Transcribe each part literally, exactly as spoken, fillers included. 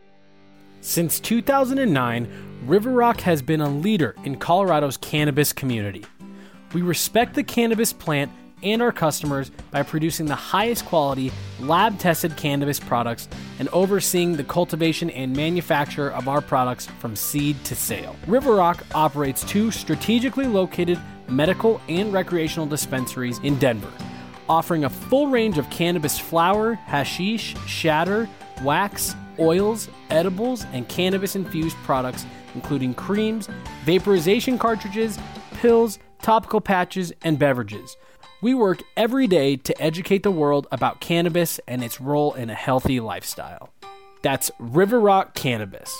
Since two thousand nine, River Rock has been a leader in Colorado's cannabis community. We respect the cannabis plant and our customers by producing the highest quality, lab-tested cannabis products and overseeing the cultivation and manufacture of our products from seed to sale. River Rock operates two strategically located medical and recreational dispensaries in Denver, offering a full range of cannabis flower, hashish, shatter, wax, oils, edibles, and cannabis-infused products, including creams, vaporization cartridges, pills, topical patches, and beverages. We work every day to educate the world about cannabis and its role in a healthy lifestyle. That's River Rock Cannabis.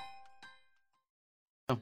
Hey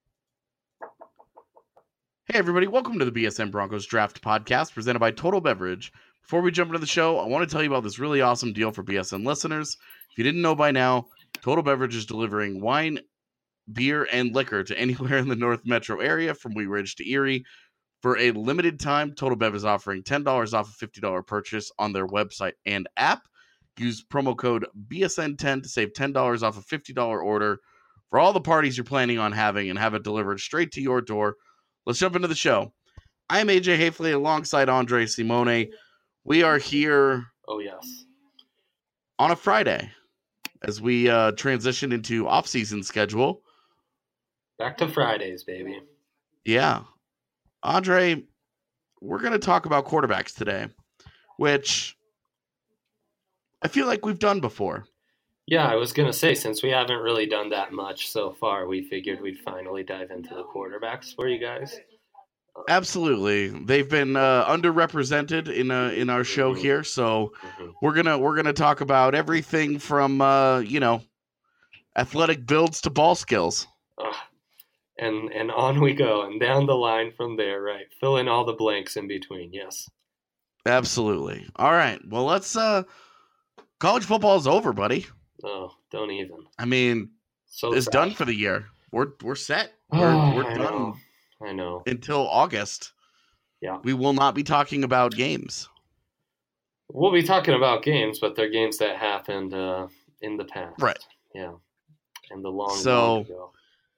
everybody, welcome to the B S N Broncos Draft Podcast presented by Total Beverage. Before we jump into the show, I want to tell you about this really awesome deal for B S N listeners. If you didn't know by now, Total Beverage is delivering wine, beer, and liquor to anywhere in the North Metro area from Wheat Ridge to Erie. For a limited time, Total Bev is offering ten dollars off a fifty dollars purchase on their website and app. Use promo code B S N ten to save ten dollars off a fifty dollars order for all the parties you're planning on having and have it delivered straight to your door. Let's jump into the show. I'm A J Hafley alongside Andre Simone. We are here oh yes, on a Friday as we uh, transition into off-season schedule. Back to Fridays, baby. Yeah. Andre, we're going to talk about quarterbacks today, which I feel like we've done before. Yeah, I was going to say, since we haven't really done that much so far, we figured we'd finally dive into the quarterbacks for you guys. Absolutely. They've been uh, underrepresented in uh, in our show mm-hmm. here, so mm-hmm. we're going to we're going to talk about everything from uh, you know, athletic builds to ball skills. Uh, and and on we go, and down the line from there, right? Fill in all the blanks in between, yes. Absolutely. All right. Well, let's uh college football is over, buddy. Oh, don't even. I mean, so it's sad. done for the year. We're we're set. We're, oh, we're I done. Know. I know. Until August. Yeah. We will not be talking about games. We'll be talking about games, but they're games that happened uh, in the past. Right. Yeah. And the long, so, long ago.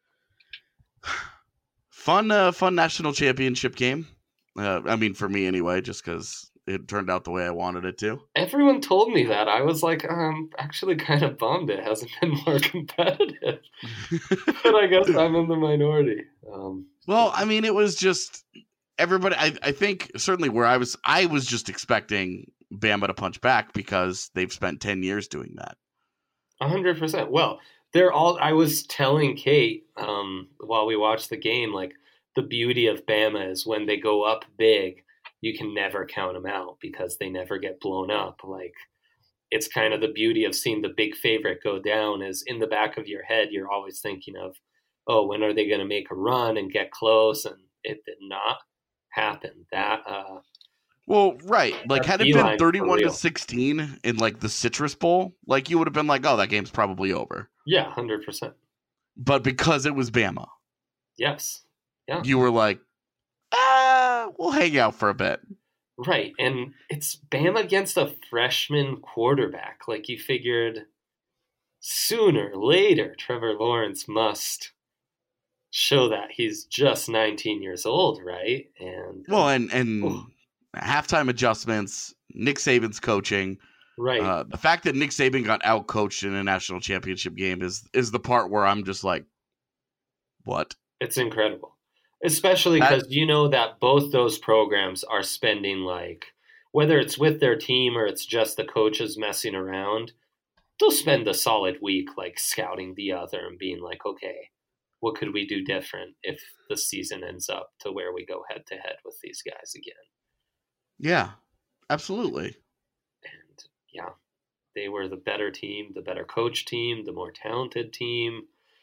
Fun, uh, fun national championship game. Uh, I mean, for me anyway, just because it turned out the way I wanted it to. Everyone told me that. I was like, I'm actually kind of bummed it hasn't been more competitive. But I guess I'm in the minority. Um, well, I mean, it was just everybody. I, I think certainly where I was, I was just expecting Bama to punch back because they've spent ten years doing that. A hundred percent. Well, they're all. I was telling Kate um, while we watched the game, like the beauty of Bama is when they go up big, you can never count them out because they never get blown up. Like it's kind of the beauty of seeing the big favorite go down is in the back of your head, you're always thinking of, oh, when are they going to make a run and get close? And it did not happen. That, uh, well, right. Like had it been thirty-one to sixteen in like the Citrus Bowl, like you would have been like, oh, that game's probably over. Yeah. one hundred percent. But because it was Bama. Yes. Yeah. You were like, ah, we'll hang out for a bit. Right. And it's Bama against a freshman quarterback. Like you figured sooner or later, Trevor Lawrence must show that he's just nineteen years old, right? And well, and and oh. halftime adjustments, Nick Saban's coaching, right? Uh, the fact that Nick Saban got out coached in a national championship game is is the part where I'm just like, what? It's incredible, especially because you know that both those programs are spending like, whether it's with their team or it's just the coaches messing around, they'll spend a solid week like scouting the other and being like, okay, what could we do different if the season ends up to where we go head to head with these guys again? Yeah, absolutely. And yeah, they were the better team, the better coach team, the more talented team.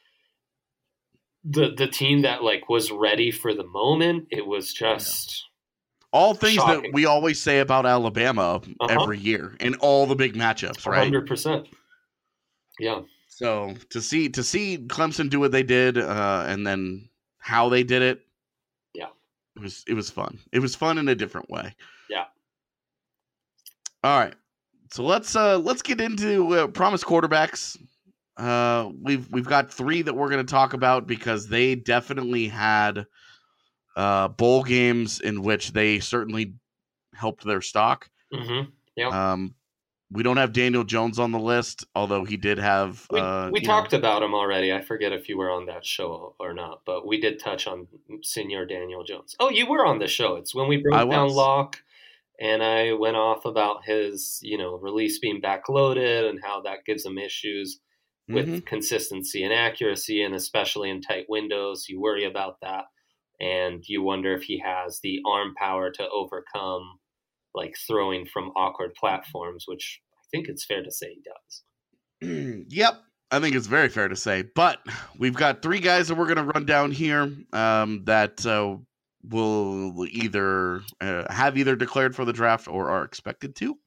The the team that like was ready for the moment. It was just yeah. all things shocking. That we always say about Alabama uh-huh. every year in all the big matchups, right? one hundred percent. Yeah. So to see to see Clemson do what they did, uh, and then how they did it, yeah, it was it was fun. It was fun in a different way. Yeah. All right, so let's uh, let's get into uh, promised quarterbacks. uh, we've we've got three that we're going to talk about because they definitely had uh, bowl games in which they certainly helped their stock. Mm-hmm. Yep. Um, we don't have Daniel Jones on the list, although he did have. We uh, we you talked know, about him already. I forget if you were on that show or not, but we did touch on Senior Daniel Jones. Oh, you were on the show. It's when we I broke down was. Locke, and I went off about his, you know, release being backloaded and how that gives him issues with Mhm. consistency and accuracy, and especially in tight windows. You worry about that, and you wonder if he has the arm power to overcome, like, throwing from awkward platforms, which I think it's fair to say he does. Yep, I think it's very fair to say. But we've got three guys that we're going to run down here um, that uh, will either uh, have either declared for the draft or are expected to.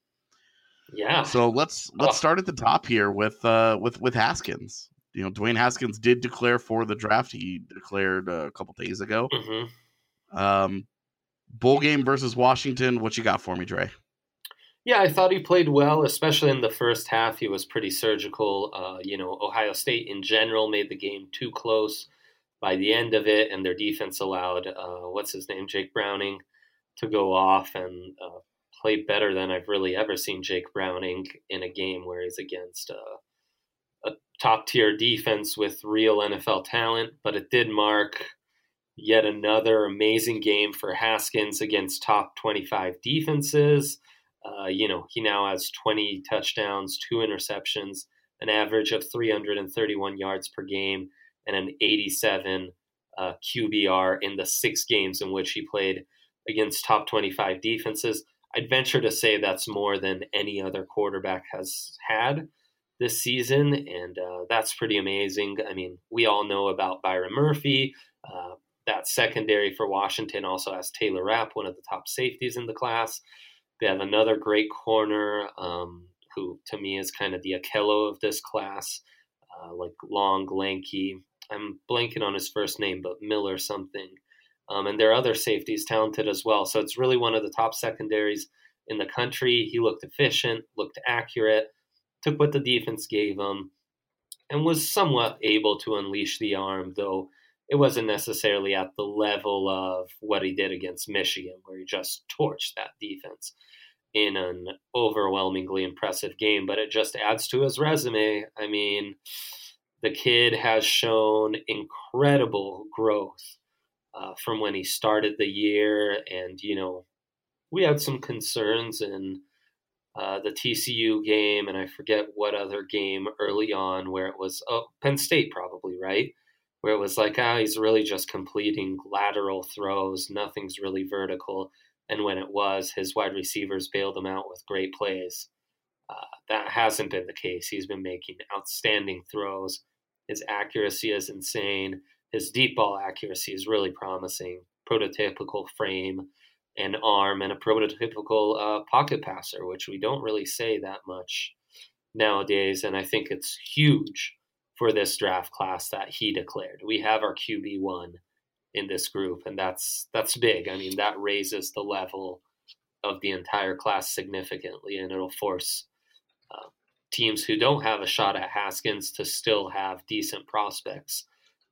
Yeah. So let's let's Oh. start at the top here with uh, with with Haskins. You know, Dwayne Haskins did declare for the draft. He declared uh, a couple days ago. Mm-hmm. Um, bowl game versus Washington. What you got for me, Dre? Yeah, I thought he played well, especially in the first half. He was pretty surgical. Uh, you know, Ohio State in general made the game too close by the end of it, and their defense allowed, uh, what's his name, Jake Browning, to go off and uh, play better than I've really ever seen Jake Browning in a game where he's against uh, a top-tier defense with real N F L talent. But it did mark yet another amazing game for Haskins against top twenty-five defenses. Uh, you know, he now has twenty touchdowns, two interceptions, an average of three hundred thirty-one yards per game, and an eighty-seven uh, Q B R in the six games in which he played against top twenty-five defenses. I'd venture to say that's more than any other quarterback has had this season, and uh, that's pretty amazing. I mean, we all know about Byron Murphy. Uh, that secondary for Washington also has Taylor Rapp, one of the top safeties in the class. They have another great corner um, who, to me, is kind of the Akello of this class, uh, like long, lanky. I'm blanking on his first name, but Miller something. Um, and there are other safeties talented as well. So it's really one of the top secondaries in the country. He looked efficient, looked accurate, took what the defense gave him, and was somewhat able to unleash the arm, though it wasn't necessarily at the level of what he did against Michigan, where he just torched that defense in an overwhelmingly impressive game. But it just adds to his resume. I mean, the kid has shown incredible growth uh, from when he started the year. And, you know, we had some concerns in uh, the T C U game, and I forget what other game early on where it was, oh, Penn State probably, right? Where it was like, ah, he's really just completing lateral throws. Nothing's really vertical. And when it was, his wide receivers bailed him out with great plays. Uh, that hasn't been the case. He's been making outstanding throws. His accuracy is insane. His deep ball accuracy is really promising. Prototypical frame and arm, and a prototypical uh, pocket passer, which we don't really say that much nowadays. And I think it's huge for this draft class that he declared. We have our Q B one in this group, and that's that's big. I mean, that raises the level of the entire class significantly, and it'll force uh, teams who don't have a shot at Haskins to still have decent prospects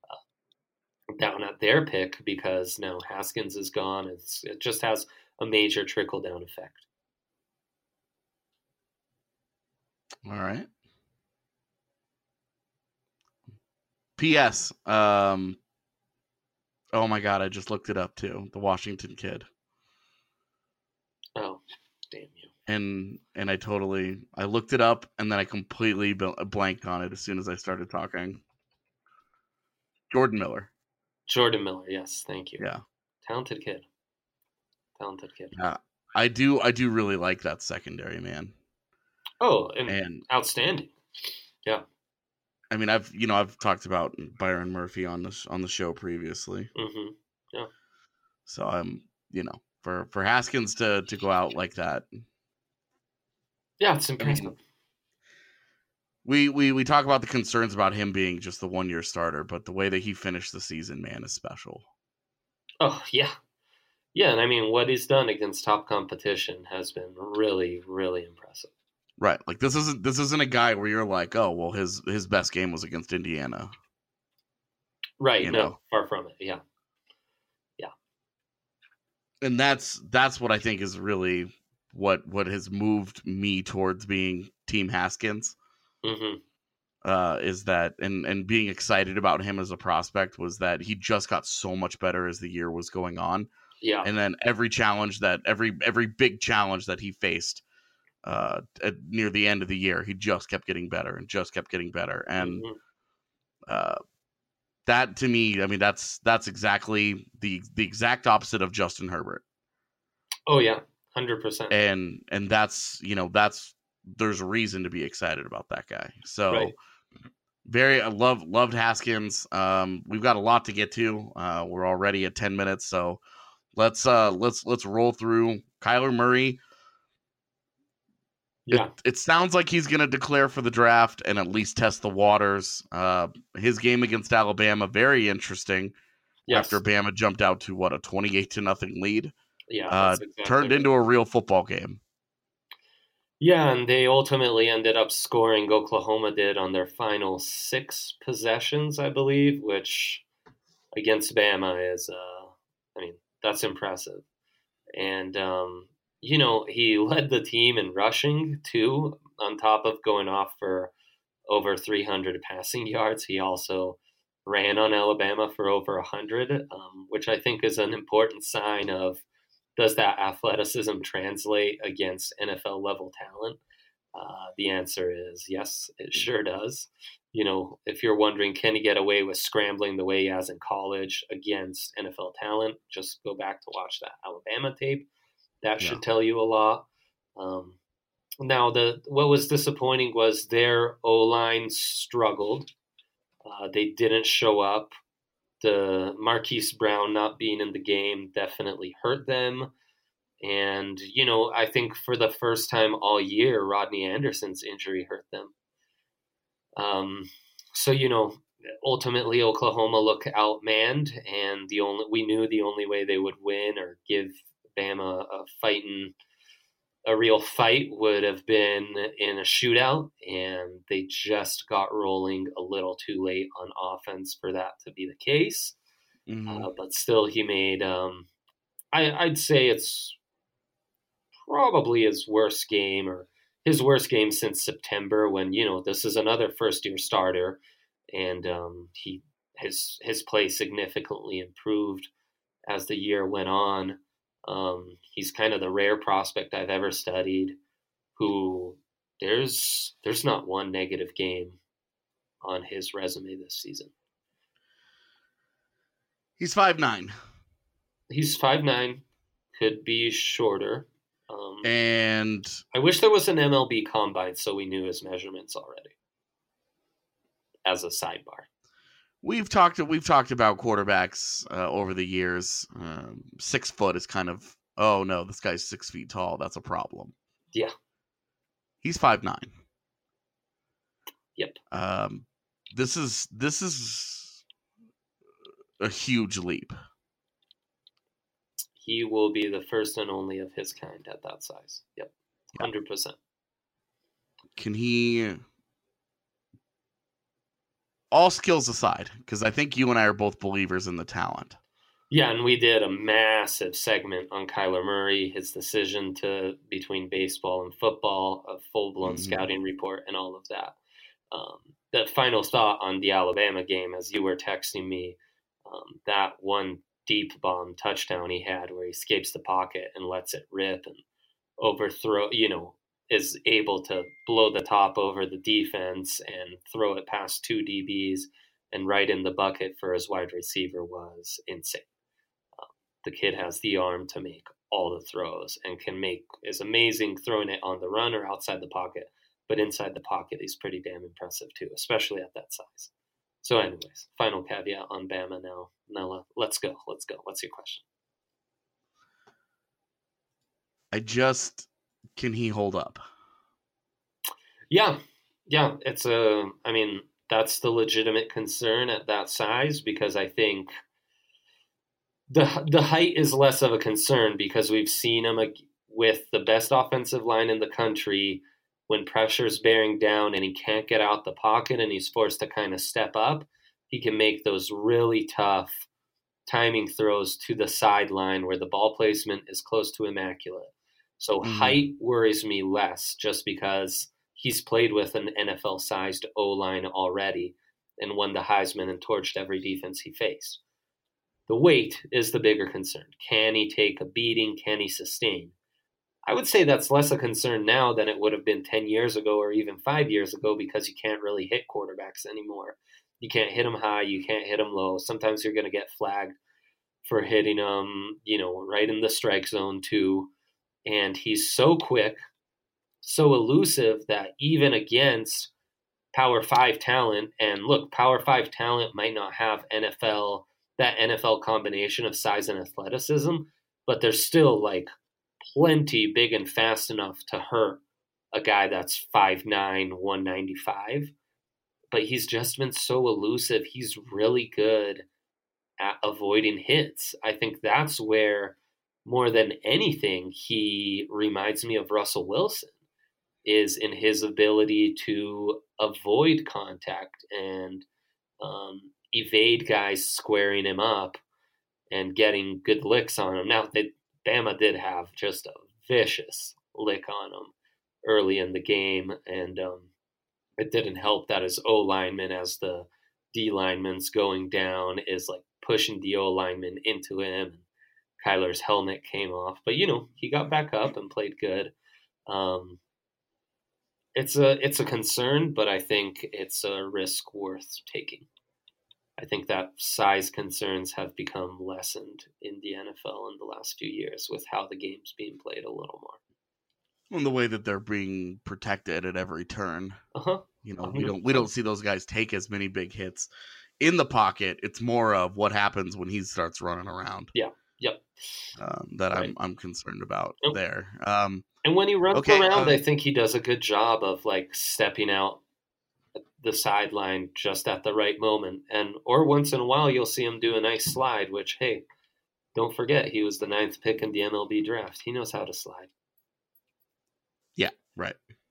uh, down at their pick, because now Haskins is gone. It's, it just has a major trickle-down effect. All right. P S. Um, oh my God, I just looked it up too. The Washington kid. Oh, damn you. And and I totally, I looked it up and then I completely blanked on it as soon as I started talking. Jordan Miller. Jordan Miller, yes, thank you. Yeah. Talented kid. Talented kid. Yeah. I do, I do really like that secondary, man. Oh, and, and outstanding. Yeah. I mean, I've you know I've talked about Byron Murphy on the on the show previously. Mm-hmm. Yeah. So I'm you know for, for Haskins to, to go out like that. Yeah, it's impressive. I mean, we, we we talk about the concerns about him being just the one year starter, but the way that he finished the season, man, is special. Oh yeah, yeah, and I mean what he's done against top competition has been really really impressive. Right. Like this isn't this isn't a guy where you're like, oh well, his his best game was against Indiana. Right. You no, know? far from it. Yeah. Yeah. And that's that's what I think is really what what has moved me towards being Team Haskins. Mm-hmm. Uh, is that and and being excited about him as a prospect was that he just got so much better as the year was going on. Yeah. And then every challenge that every every big challenge that he faced uh, at, near the end of the year, he just kept getting better and just kept getting better. And Mm-hmm. uh, that to me, I mean, that's that's exactly the the exact opposite of Justin Herbert. Oh yeah, one hundred percent. And and that's you know that's there's a reason to be excited about that guy. So. Right. Very, I love loved Haskins. Um, we've got a lot to get to. Uh, we're already at ten minutes, so let's uh, let's let's roll through Kyler Murray. Yeah, It, it sounds like he's going to declare for the draft and at least test the waters. Uh, his game against Alabama, very interesting. yes. After Bama jumped out to what a twenty-eight to nothing lead, yeah, uh, that's exactly turned right. into a real football game. Yeah, and they ultimately ended up scoring. Oklahoma did on their final six possessions, I believe, which against Bama is, uh, I mean, that's impressive. And, um, you know, he led the team in rushing, too, on top of going off for over three hundred passing yards. He also ran on Alabama for over one hundred, um, which I think is an important sign of, does that athleticism translate against N F L level talent? Uh, the answer is yes, it sure does. You know, if you're wondering, can he get away with scrambling the way he has in college against N F L talent? Just go back to watch that Alabama tape. That should Yeah. tell you a lot. Um, now, the what was disappointing was their O-line struggled. Uh, they didn't show up. The Marquise Brown not being in the game definitely hurt them. And, you know, I think for the first time all year, Rodney Anderson's injury hurt them. Um, so, you know, ultimately Oklahoma looked outmanned, and the only we knew the only way they would win or give Bama a fighting a real fight would have been in a shootout, and they just got rolling a little too late on offense for that to be the case. Mm-hmm. Uh, but still, he made, um, I, I'd say it's probably his worst game or his worst game since September when, you know, this is another first-year starter, and um, he his his play significantly improved as the year went on. Um, he's kind of the rare prospect I've ever studied who there's there's not one negative game on his resume this season. He's five nine. He's five nine, could be shorter. Um, And I wish there was an M L B combine so we knew his measurements already. As a sidebar. We've talked we've talked about quarterbacks uh, over the years. Um, six foot is kind of oh no, this guy's six feet tall. That's a problem. Yeah. He's five nine. Yep. Um, this is this is a huge leap. He will be the first and only of his kind at that size. Yep. one hundred percent. Can he? All skills aside, because I think you and I are both believers in the talent. Yeah, and we did a massive segment on Kyler Murray, his decision to between baseball and football, a full-blown Mhm. scouting report, and all of that. Um, the final thought on the Alabama game, as you were texting me, um, that one deep bomb touchdown he had where he escapes the pocket and lets it rip and overthrow, you know, is able to blow the top over the defense and throw it past two D Bs and right in the bucket for his wide receiver was insane. Um, the kid has the arm to make all the throws and can make is amazing throwing it on the run or outside the pocket, but inside the pocket he's pretty damn impressive too, especially at that size. So anyways, final caveat on Bama now. Now let's go. Let's go. What's your question? I just can he hold up? Yeah. Yeah. It's a, I mean, that's the legitimate concern at that size because I think the the height is less of a concern because we've seen him with the best offensive line in the country when pressure's bearing down and he can't get out the pocket and he's forced to kind of step up, he can make those really tough timing throws to the sideline where the ball placement is close to immaculate. So mm-hmm. height worries me less just because he's played with an N F L-sized O-line already and won the Heisman and torched every defense he faced. The weight is the bigger concern. Can he take a beating? Can he sustain? I would say that's less a concern now than it would have been ten years ago or even five years ago because you can't really hit quarterbacks anymore. You can't hit them high. You can't hit them low. Sometimes you're going to get flagged for hitting them, you know, right in the strike zone too. And he's so quick, so elusive that even against Power five talent, and look, Power five talent might not have N F L, that N F L combination of size and athleticism, but they're still like plenty big and fast enough to hurt a guy that's five nine, one ninety-five. But he's just been so elusive. He's really good at avoiding hits. I think that's where, more than anything, he reminds me of Russell Wilson, is in his ability to avoid contact and um, evade guys squaring him up and getting good licks on him. Now, they, Bama did have just a vicious lick on him early in the game, and um, it didn't help that his O-lineman, as the D-lineman's going down, is like pushing the O-lineman into him. Kyler's helmet came off. But, you know, he got back up and played good. Um, it's a it's a concern, but I think it's a risk worth taking. I think that size concerns have become lessened in the N F L in the last few years with how the game's being played a little more. And the way that they're being protected at every turn. Uh-huh. You know, we don't we don't see those guys take as many big hits in the pocket. It's more of what happens when he starts running around. Yeah. Yep. Um, that right. I'm I'm concerned about yep. there. Um, and when he runs okay, around, uh, I think he does a good job of like stepping out the sideline just at the right moment. And or once in a while, you'll see him do a nice slide. Which, hey, don't forget, he was the ninth pick in the M L B draft. He knows how to slide. Yeah. Right.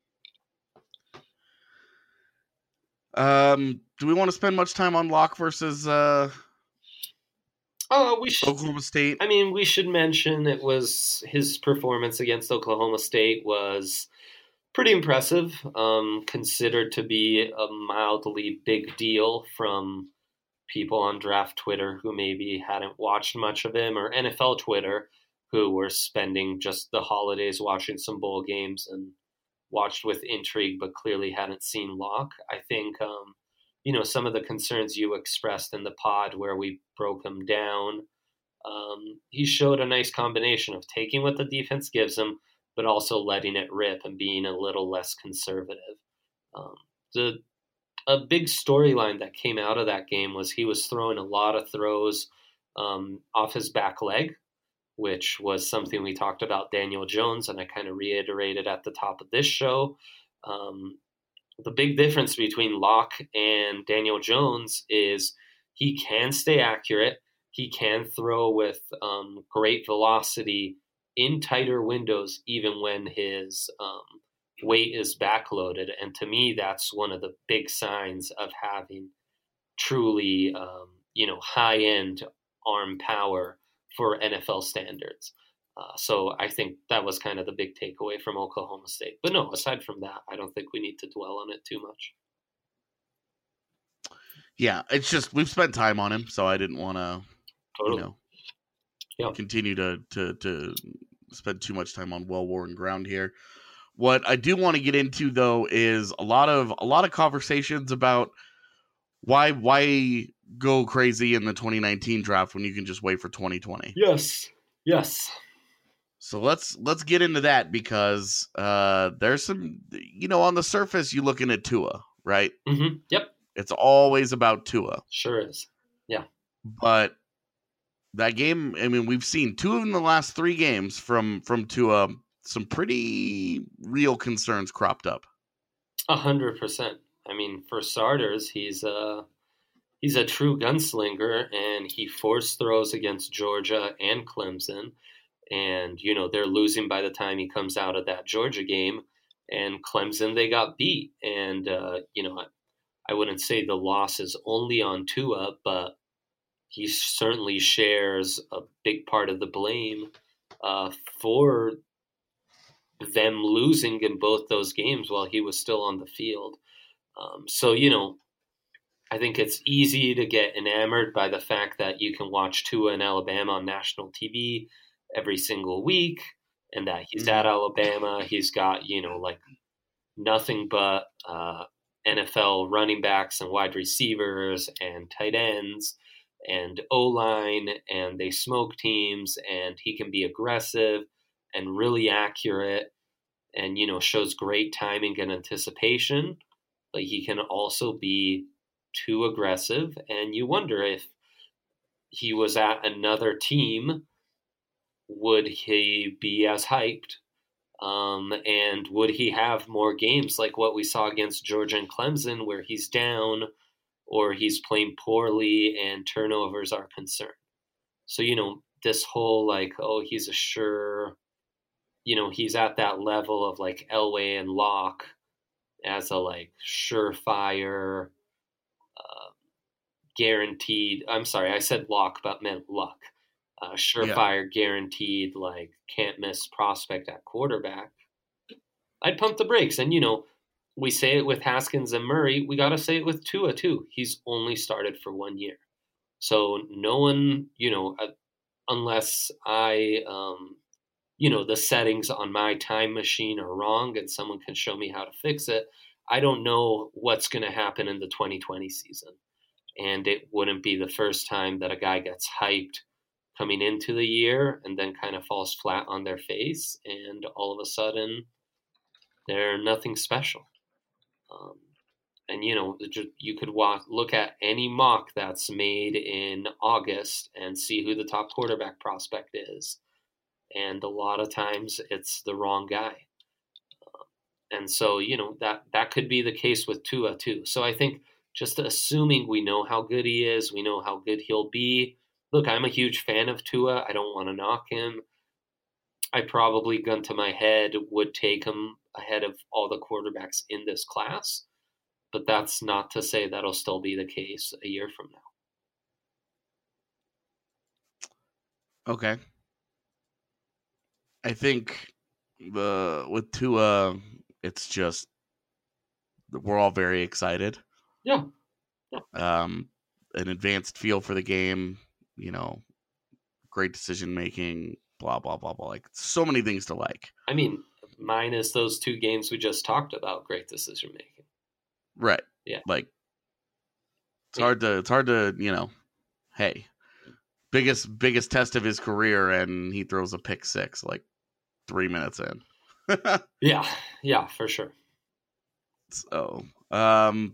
Um, do we want to spend much time on Locke versus uh, oh, we should, Oklahoma State? I mean, we should mention it was his performance against Oklahoma State was pretty impressive, um, considered to be a mildly big deal from people on draft Twitter who maybe hadn't watched much of him, or N F L Twitter who were spending just the holidays watching some bowl games and watched with intrigue, but clearly hadn't seen Locke. I think, um, you know, some of the concerns you expressed in the pod where we broke him down, um, he showed a nice combination of taking what the defense gives him, but also letting it rip and being a little less conservative. Um, the a big storyline that came out of that game was he was throwing a lot of throws um, off his back leg, which was something we talked about Daniel Jones, and I kind of reiterated at the top of this show. Um, the big difference between Locke and Daniel Jones is he can stay accurate. He can throw with um, great velocity in tighter windows, even when his um, weight is backloaded. And to me, that's one of the big signs of having truly, um, you know, high-end arm power for N F L standards. Uh, so I think that was kind of the big takeaway from Oklahoma State. But no, aside from that, I don't think we need to dwell on it too much. Yeah, it's just we've spent time on him, so I didn't want to, totally. you know, yeah. continue to, to to spend too much time on well-worn ground here. What I do want to get into, though, is a lot of a lot of conversations about why why go crazy in the twenty nineteen draft when you can just wait for twenty twenty. Yes, yes. So let's let's get into that because uh, there's some, you know, on the surface you looking at Tua, right? Mm-hmm. Yep. It's always about Tua. Sure is. Yeah. But that game, I mean, we've seen two in the last three games from from Tua. Some pretty real concerns cropped up. A hundred percent. I mean, for starters, he's a he's a true gunslinger, and he forced throws against Georgia and Clemson. And, you know, they're losing by the time he comes out of that Georgia game. and Clemson, they got beat. And, uh, you know, I, I wouldn't say the loss is only on Tua, but he certainly shares a big part of the blame uh, for them losing in both those games while he was still on the field. Um, so, you know, I think it's easy to get enamored by the fact that you can watch Tua in Alabama on national T V every single week, and that he's at Alabama. He's got, you know, like nothing but uh, N F L running backs and wide receivers and tight ends and O-line, and they smoke teams, and he can be aggressive and really accurate and, you know, shows great timing and anticipation. But he can also be too aggressive, and you wonder if he was at another team, would he be as hyped? Um, and would he have more games like what we saw against Georgia and Clemson where he's down or he's playing poorly and turnovers are concerned? So, you know, this whole like, oh, he's a sure, you know, he's at that level of like Elway and Locke as a like surefire, uh, guaranteed. I'm sorry, I said Locke, but meant Luck. Uh, surefire, yeah. guaranteed, like can't miss prospect at quarterback. I'd pump the brakes. And, you know, we say it with Haskins and Murray. We got to say it with Tua, too. He's only started for one year. So no one, you know, uh, unless I, um, you know, the settings on my time machine are wrong and someone can show me how to fix it, I don't know what's going to happen in the twenty twenty season. And it wouldn't be the first time that a guy gets hyped coming into the year and then kind of falls flat on their face, and all of a sudden they're nothing special. Um, and, you know, you could walk, look at any mock that's made in August and see who the top quarterback prospect is. And a lot of times it's the wrong guy. Um, and so, you know, that, that could be the case with Tua too. So I think just assuming we know how good he is, we know how good he'll be. Look, I'm a huge fan of Tua. I don't want to knock him. I probably, gun to my head, would take him ahead of all the quarterbacks in this class. But that's not to say that'll still be the case a year from now. Okay. I think the with Tua, it's just we're all very excited. Yeah. yeah. Um, an advanced feel for the game. You know, great decision making, blah, blah, blah, blah. Like so many things to like. I mean, minus those two games we just talked about, great decision making. Right. Yeah. Like it's yeah. hard to, it's hard to, you know, hey, biggest, biggest test of his career. And he throws a pick six, like three minutes in. yeah. Yeah, for sure. So, um,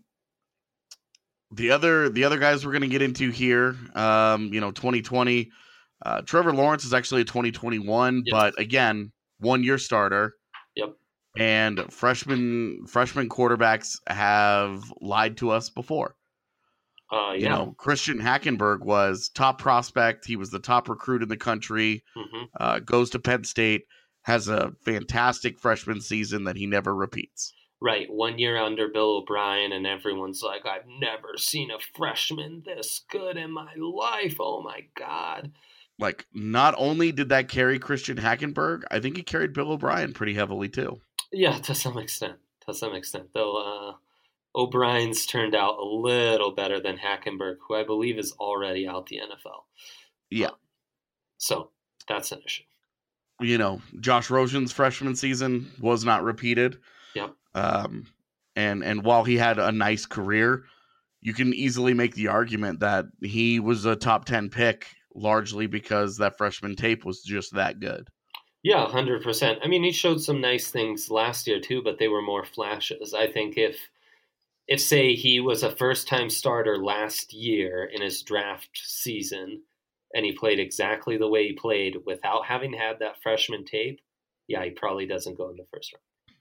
The other the other guys we're going to get into here, um, you know, twenty twenty, uh, Trevor Lawrence is actually a twenty twenty-one, yep. But again, one-year starter. Yep. And freshman freshman quarterbacks have lied to us before. Uh, yeah. You know, Christian Hackenberg was top prospect. He was the top recruit in the country, mm-hmm. uh, goes to Penn State, has a fantastic freshman season that he never repeats. Right, one year under Bill O'Brien, and everyone's like, I've never seen a freshman this good in my life. Oh, my God. Like, not only did that carry Christian Hackenberg, I think it carried Bill O'Brien pretty heavily, too. Yeah, to some extent. To some extent. Though uh, O'Brien's turned out a little better than Hackenberg, who I believe is already out the N F L. Yeah. Um, so, that's an issue. You know, Josh Rosen's freshman season was not repeated. Yep. Um, and, and while he had a nice career, you can easily make the argument that he was a top ten pick largely because that freshman tape was just that good. Yeah, one hundred percent. I mean, he showed some nice things last year too, but they were more flashes. I think if, if say he was a first-time starter last year in his draft season and he played exactly the way he played without having had that freshman tape, yeah, he probably doesn't go in the first round.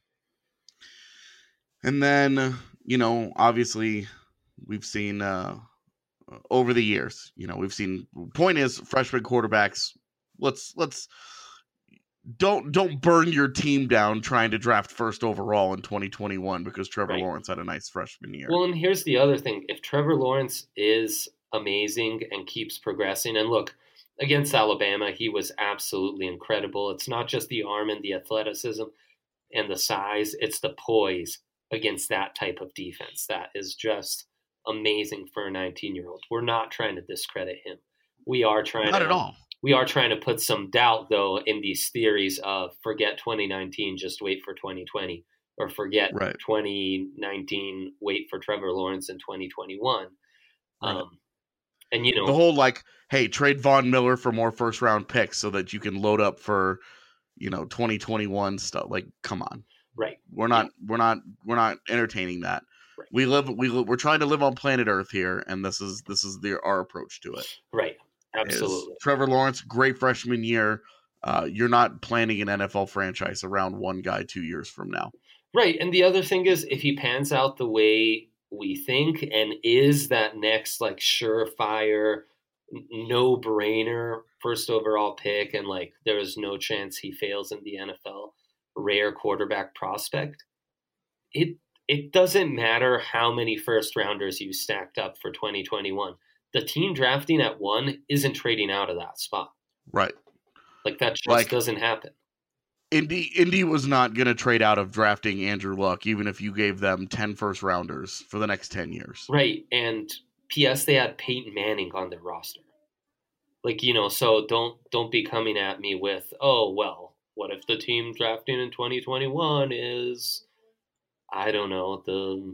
And then, you know, obviously we've seen uh, over the years, you know, we've seen point is freshman quarterbacks. Let's let's don't don't burn your team down trying to draft first overall in twenty twenty-one because Trevor Right. Lawrence had a nice freshman year. Well, and here's the other thing. If Trevor Lawrence is amazing and keeps progressing, and look, against Alabama, he was absolutely incredible. It's not just the arm and the athleticism and the size, it's the poise against that type of defense. That is just amazing for a nineteen-year-old. We're not trying to discredit him. We are trying Not to, at all. We are trying to put some doubt, though, in these theories of forget twenty nineteen, just wait for twenty twenty, or forget Right. twenty nineteen, wait for Trevor Lawrence in twenty twenty-one. Right. Um, and, you know, The whole like, hey, trade Von Miller for more first round picks so that you can load up for, you know, twenty twenty-one stuff. Like, come on. right. We're not we're not we're not entertaining that. Right. We live we li- we're trying to live on planet Earth here, and this is this is the our approach to it. Right. Is Absolutely. Trevor Lawrence, great freshman year. Uh, you're not planning an N F L franchise around one guy two years from now. Right. And the other thing is, if he pans out the way we think and is that next, like, surefire, no brainer first overall pick, and like there is no chance he fails in the N F L, rare quarterback prospect, it it doesn't matter how many first rounders you stacked up for twenty twenty-one. The team drafting at one isn't trading out of that spot. Right. Like, that just Like- doesn't happen. Indy Indy was not going to trade out of drafting Andrew Luck, even if you gave them ten first rounders for the next ten years. Right. And P S they had Peyton Manning on their roster. Like, you know, so don't don't be coming at me with, oh, well, what if the team drafting in twenty twenty-one is, I don't know, the,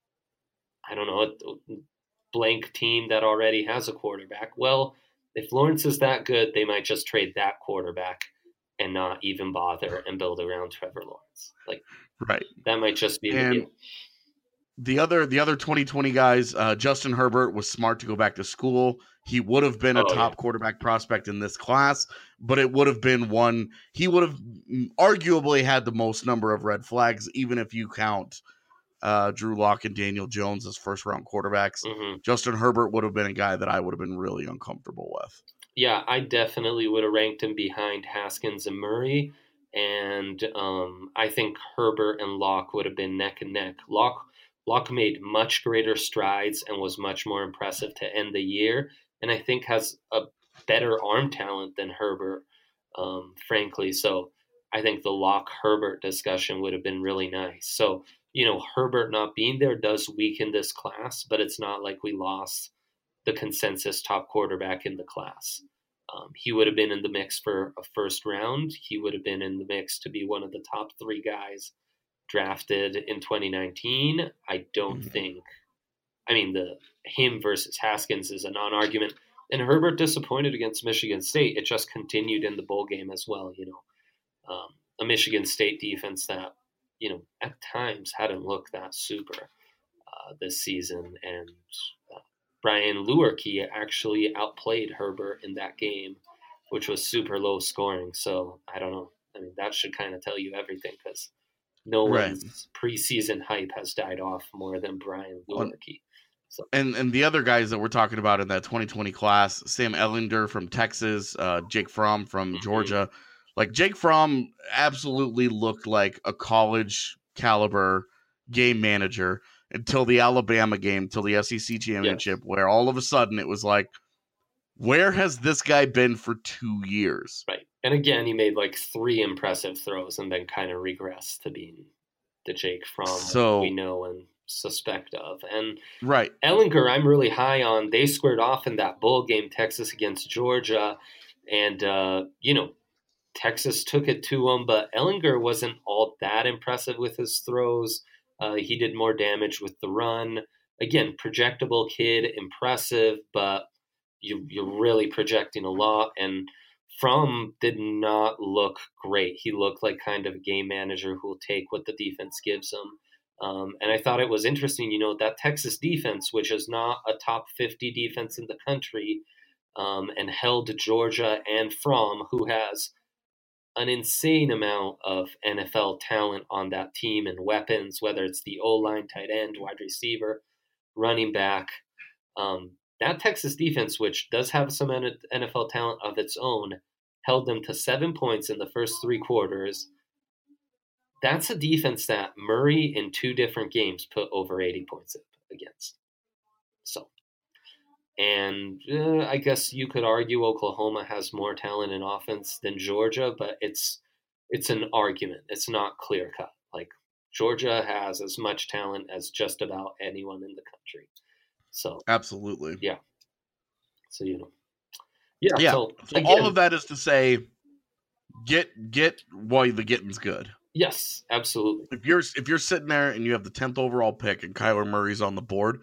I don't know, a blank team that already has a quarterback. Well, if Lawrence is that good, they might just trade that quarterback and not even bother and build around Trevor Lawrence. Like, Right. that might just be the And deal. the other the other twenty twenty guys, uh, Justin Herbert was smart to go back to school. He would have been a Oh, top yeah. quarterback prospect in this class, but it would have been one. He would have arguably had the most number of red flags, even if you count uh, Drew Lock and Daniel Jones as first round quarterbacks. hmm Justin Herbert would have been a guy that I would have been really uncomfortable with. Yeah, I definitely would have ranked him behind Haskins and Murray. And um, I think Herbert and Locke would have been neck and neck. Locke, Locke made much greater strides and was much more impressive to end the year. And I think has a better arm talent than Herbert, um, frankly. So I think the Locke-Herbert discussion would have been really nice. So, you know, Herbert not being there does weaken this class, but it's not like we lost the consensus top quarterback in the class. Um, he would have been in the mix for a first round. He would have been in the mix to be one of the top three guys drafted in twenty nineteen. I don't Mhm. think, I mean, the him versus Haskins is a non-argument. And Herbert disappointed against Michigan State. It just continued in the bowl game as well, you know. Um, a Michigan State defense that, you know, at times hadn't looked that super uh, this season. And uh, Brian Lewerke actually outplayed Herbert in that game, which was super low scoring. So I don't know. I mean, that should kind of tell you everything because no Right. one's preseason hype has died off more than Brian Lewerke. So And and the other guys that we're talking about in that twenty twenty class, Sam Ellinger from Texas, uh, Jake Fromm from Mhm. Georgia. Like Jake Fromm absolutely looked like a college caliber game manager until the Alabama game, till the S E C championship, where all of a sudden it was like, where has this guy been for two years? right. And again, he made like three impressive throws and then kind of regressed to being the Jake Fromm So- we know and suspect of. And Right. Ellinger, I'm really high on. They squared off in that bowl game, Texas against Georgia. And, uh, you know, Texas took it to him, but Ellinger wasn't all that impressive with his throws. Uh, he did more damage with the run. Again, projectable kid, impressive, but you, you're really projecting a lot. And Fromm did not look great. He looked like kind of a game manager who will take what the defense gives him. Um, and I thought it was interesting, you know, that Texas defense, which is not a top fifty defense in the country, um, and held Georgia and Fromm, who has an insane amount of N F L talent on that team and weapons, whether it's the O-line, tight end, wide receiver, running back. Um, that Texas defense, which does have some N F L talent of its own, held them to seven points in the first three quarters. That's a defense that Murray in two different games put over eighty points against. So, and uh, I guess you could argue Oklahoma has more talent in offense than Georgia, but it's it's an argument. It's not clear cut. Like, Georgia has as much talent as just about anyone in the country. So absolutely, yeah. So you know, yeah. yeah. So, so again, all of that is to say, get get while the getting's good. Yes, absolutely. If you're if you're sitting there and you have the tenth overall pick and Kyler Murray's on the board,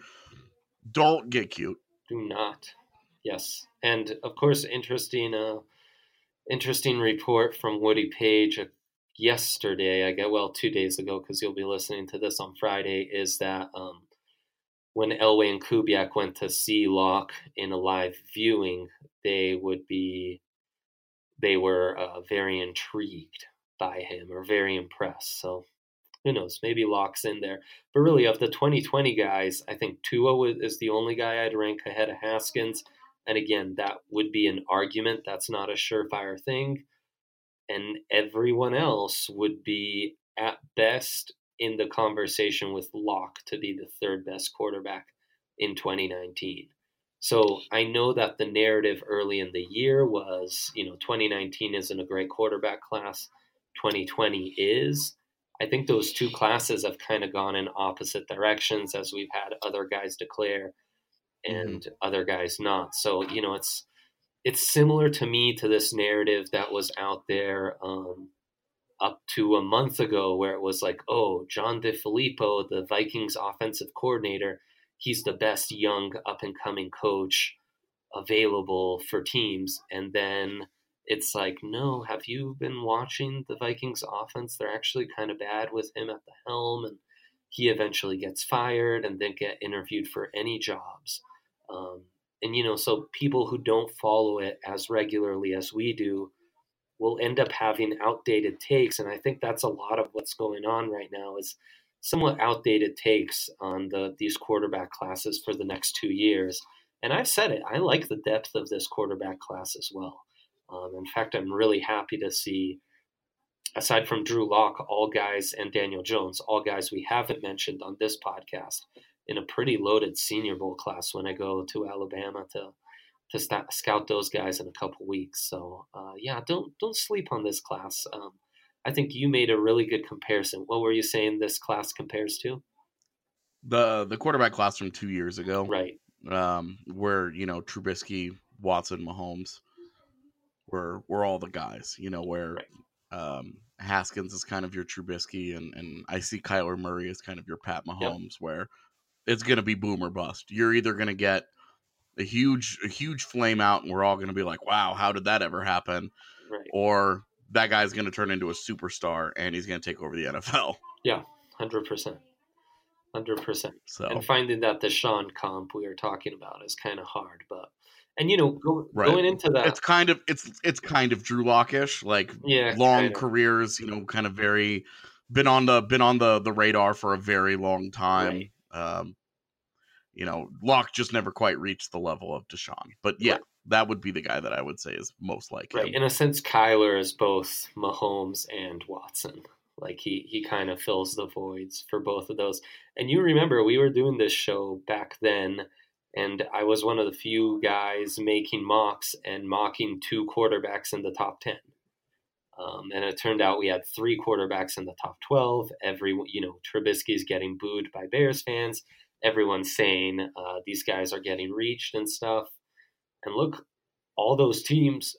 don't get cute. Do not. Yes, and of course, interesting, uh, interesting report from Woody Page yesterday. I get well two days ago because you'll be listening to this on Friday. Is that um, when Elway and Kubiak went to see Locke in a live viewing, they would be they were uh, very intrigued by him or very impressed. So who knows? Maybe Locke's in there. But really, of the twenty twenty guys, I think Tua is the only guy I'd rank ahead of Haskins. And again, that would be an argument. That's not a surefire thing. And everyone else would be at best in the conversation with Locke to be the third best quarterback in twenty nineteen. So I know that the narrative early in the year was, you know, twenty nineteen isn't a great quarterback class. twenty twenty is. I think those two classes have kind of gone in opposite directions as we've had other guys declare and mm-hmm. other guys not. So, you know, it's it's similar to me to this narrative that was out there um, up to a month ago where it was like, oh, John DeFilippo, the Vikings offensive coordinator, he's the best young up-and-coming coach available for teams. And then it's like, no, have you been watching the Vikings offense? They're actually kind of bad with him at the helm, and he eventually gets fired and then get interviewed for any jobs. Um, and, you know, so people who don't follow it as regularly as we do will end up having outdated takes. And I think that's a lot of what's going on right now is somewhat outdated takes on the these quarterback classes for the next two years. And I've said it, I like the depth of this quarterback class as well. Um, in fact, I'm really happy to see, aside from Drew Lock, all guys, and Daniel Jones, all guys we haven't mentioned on this podcast, in a pretty loaded Senior Bowl class when I go to Alabama to to st- scout those guys in a couple weeks. So, uh, yeah, don't don't sleep on this class. Um, I think you made a really good comparison. What were you saying this class compares to? The the quarterback class from two years ago. Right. Um, where, you know, Trubisky, Watson, Mahomes were were all the guys, you know, where right. um, Haskins is kind of your Trubisky, and, and I see Kyler Murray as kind of your Pat Mahomes, yep. where it's going to be boom or bust. You're either going to get a huge a huge flame out, and we're all going to be like, wow, how did that ever happen? Right. Or that guy's going to turn into a superstar, and he's going to take over the N F L. Yeah, one hundred percent. one hundred percent. So. And finding that Deshaun comp we were talking about is kind of hard, but and you know go, right. going into that, it's kind of it's it's kind of Drew Lock-ish, like yeah, long kind of. careers, you know, kind of very been on the been on the the radar for a very long time. Right. Um, you know, Locke just never quite reached the level of Deshaun, but yeah, right. that would be the guy that I would say is most like right. him. In a sense, Kyler is both Mahomes and Watson. Like he he kind of fills the voids for both of those. And you remember we were doing this show back then, and I was one of the few guys making mocks and mocking two quarterbacks in the top ten. Um, and it turned out we had three quarterbacks in the top twelve. Every you know Trubisky's getting booed by Bears fans. Everyone's saying uh, these guys are getting reached and stuff. And look, all those teams,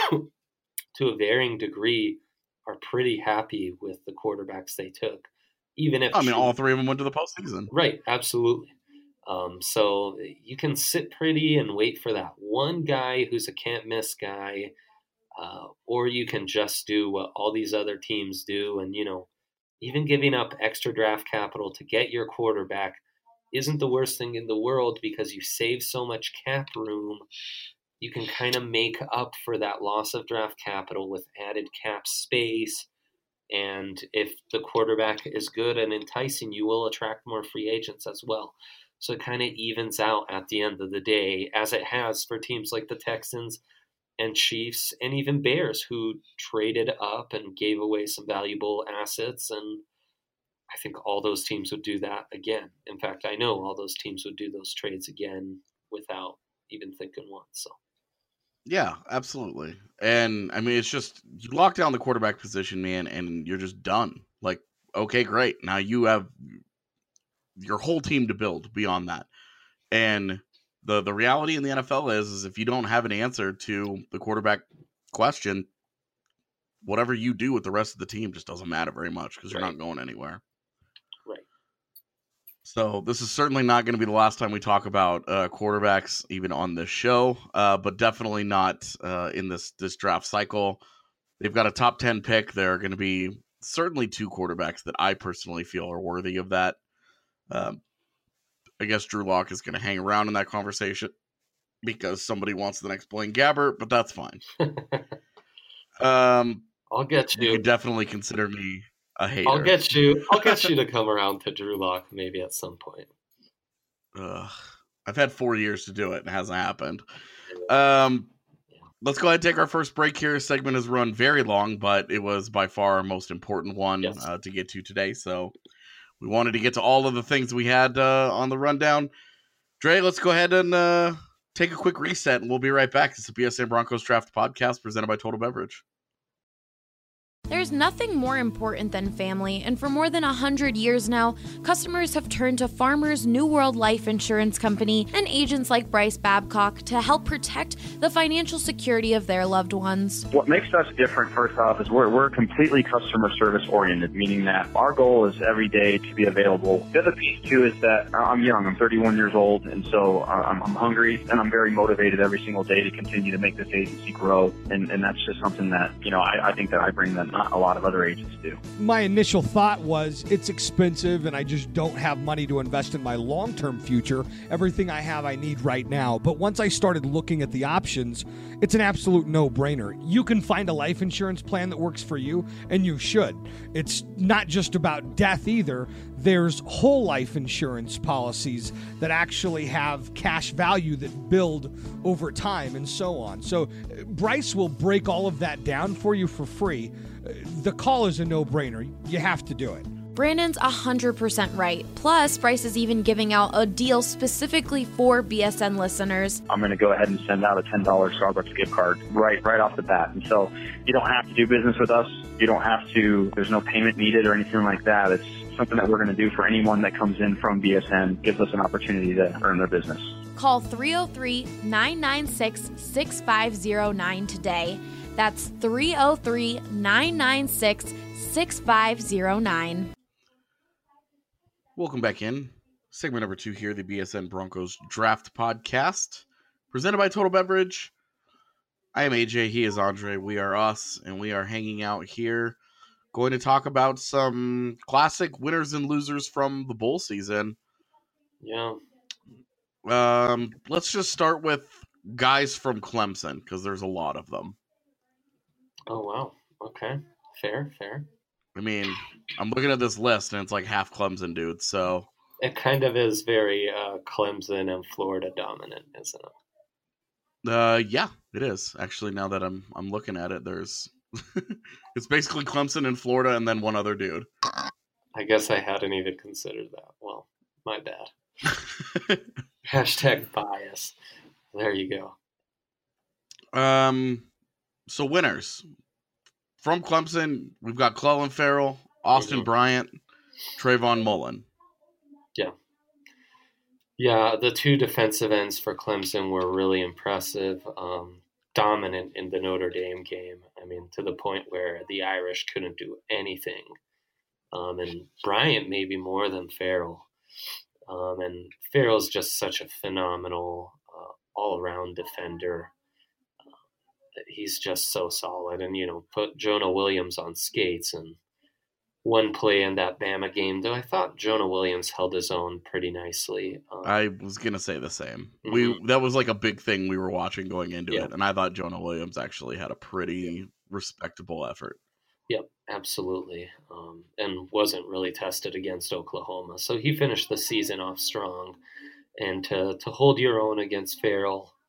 to a varying degree, are pretty happy with the quarterbacks they took. Even if I mean, all three of them went to the postseason. Right, absolutely. Um, so you can sit pretty and wait for that one guy who's a can't-miss guy, uh, or you can just do what all these other teams do. And, you know, even giving up extra draft capital to get your quarterback isn't the worst thing in the world because you save so much cap room. You can kind of make up for that loss of draft capital with added cap space. And if the quarterback is good and enticing, you will attract more free agents as well. So it kind of evens out at the end of the day, as it has for teams like the Texans and Chiefs and even Bears, who traded up and gave away some valuable assets. And I think all those teams would do that again. In fact, I know all those teams would do those trades again without even thinking once. So, yeah, absolutely. And I mean, it's just you lock down the quarterback position, man, and you're just done. Like, okay, great. Now you have your whole team to build beyond that. And the the reality in the N F L is, is if you don't have an answer to the quarterback question, whatever you do with the rest of the team just doesn't matter very much because you're Right. not going anywhere. right. So this is certainly not going to be the last time we talk about uh, quarterbacks, even on this show, uh, but definitely not uh, in this this draft cycle. They've got a top ten pick. There are going to be certainly two quarterbacks that I personally feel are worthy of that. Um, I guess Drew Lock is going to hang around in that conversation because somebody wants the next Blaine Gabbert, but that's fine. um, I'll get you you. could definitely consider me a hater. I'll get you. I'll get you to come around to Drew Lock maybe at some point. Ugh. I've had four years to do it and it hasn't happened. Um, let's go ahead and take our first break here. This segment has run very long, but it was by far our most important one Yes. uh, to get to today. So we wanted to get to all of the things we had uh, on the rundown. Dre, let's go ahead and uh, take a quick reset, and we'll be right back. It's the B S N Broncos Draft Podcast presented by Total Beverage. There's nothing more important than family, and for more than one hundred years now, customers have turned to Farmers New World Life Insurance Company and agents like Bryce Babcock to help protect the financial security of their loved ones. What makes us different, first off, is we're, we're completely customer service oriented, meaning that our goal is every day to be available. The other piece, too, is that I'm young. I'm thirty-one years old, and so I'm, I'm hungry, and I'm very motivated every single day to continue to make this agency grow, and, and that's just something that, you know, I, I think that I bring that not a lot of other agents do. My initial thought was it's expensive and I just don't have money to invest in my long-term future. Everything I have I need right now. But once I started looking at the options, it's an absolute no-brainer. You can find a life insurance plan that works for you, and you should. It's not just about death either. There's whole life insurance policies that actually have cash value that build over time and so on. So Bryce will break all of that down for you for free. The call is a no-brainer. You have to do it. Brandon's one hundred percent right. Plus, Bryce is even giving out a deal specifically for B S N listeners. I'm going to go ahead and send out a ten dollars Starbucks gift card right right off the bat. And so you don't have to do business with us. You don't have to, there's no payment needed or anything like that. It's something that we're going to do for anyone that comes in from B S N, gives us an opportunity to earn their business. Call three oh three, nine nine six, six five oh nine today. That's three oh three, nine nine six, six five oh nine. Welcome back in. Segment number two here, the B S N Broncos Draft Podcast, presented by Total Beverage. I am A J, he is Andre, we are us, and we are hanging out here going to talk about some classic winners and losers from the bowl season. Yeah. Um, let's just start with guys from Clemson, because there's a lot of them. Oh, wow. Okay. Fair, fair. I mean, I'm looking at this list, and it's like half Clemson dudes, so... It kind of is very uh, Clemson and Florida dominant, isn't it? Uh, yeah, it is. Actually, now that I'm I'm looking at it, there's... it's basically Clemson and Florida, and then one other dude. I guess I hadn't even considered that. Well, my bad. Hashtag bias. There you go. Um, so winners. From Clemson, we've got Clelin Ferrell, Austin Mhm. Bryant, Trayvon Mullen. Yeah. Yeah, the two defensive ends for Clemson were really impressive, um, dominant in the Notre Dame game. I mean, to the point where the Irish couldn't do anything. Um, and Bryant maybe more than Ferrell. Um, and Farrell's just such a phenomenal uh, all-around defender. Uh, he's just so solid. And, you know, put Jonah Williams on skates. And one play in that Bama game, though I thought Jonah Williams held his own pretty nicely. Um, I was going to say the same. Mhm. We That was like a big thing we were watching going into Yeah. it, and I thought Jonah Williams actually had a pretty respectable effort. Yep, absolutely. Um, and wasn't really tested against Oklahoma. So he finished the season off strong. And to, to hold your own against Farrell,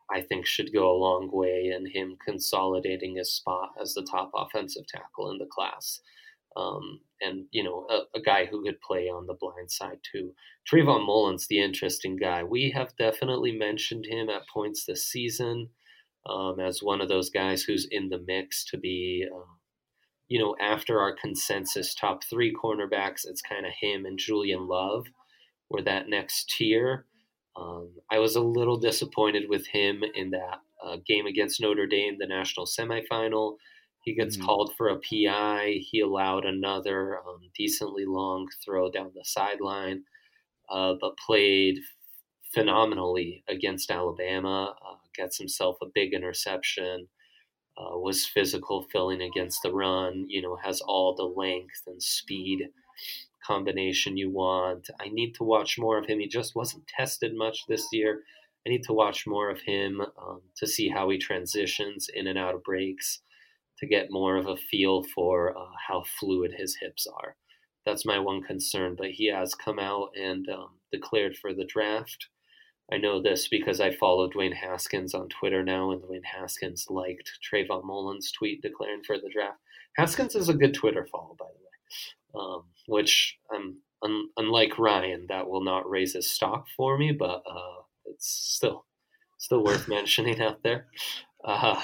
I think should go a long way in him consolidating his spot as the top offensive tackle in the class. Um, and, you know, a, a guy who could play on the blind side too. Trayvon Mullen's the interesting guy. We have definitely mentioned him at points this season um, as one of those guys who's in the mix to be, uh, you know, after our consensus top three cornerbacks, it's kind of him and Julian Love were that next tier. Um, I was a little disappointed with him in that uh, game against Notre Dame, the national semifinal. He gets mm-hmm. called for a P I. He allowed another um, decently long throw down the sideline, uh, but played phenomenally against Alabama, uh, gets himself a big interception, uh, was physical filling against the run, you know, has all the length and speed combination you want. I need to watch more of him. He just wasn't tested much this year. I need to watch more of him um, to see how he transitions in and out of breaks, to get more of a feel for uh, how fluid his hips are. That's my one concern, but he has come out and um, declared for the draft. I know this because I follow Dwayne Haskins on Twitter now, and Dwayne Haskins liked Trayvon Mullen's tweet declaring for the draft. Haskins is a good Twitter follow, by the way, um, which, um, un- unlike Ryan, that will not raise his stock for me, but uh, it's still still worth mentioning out there. Uh,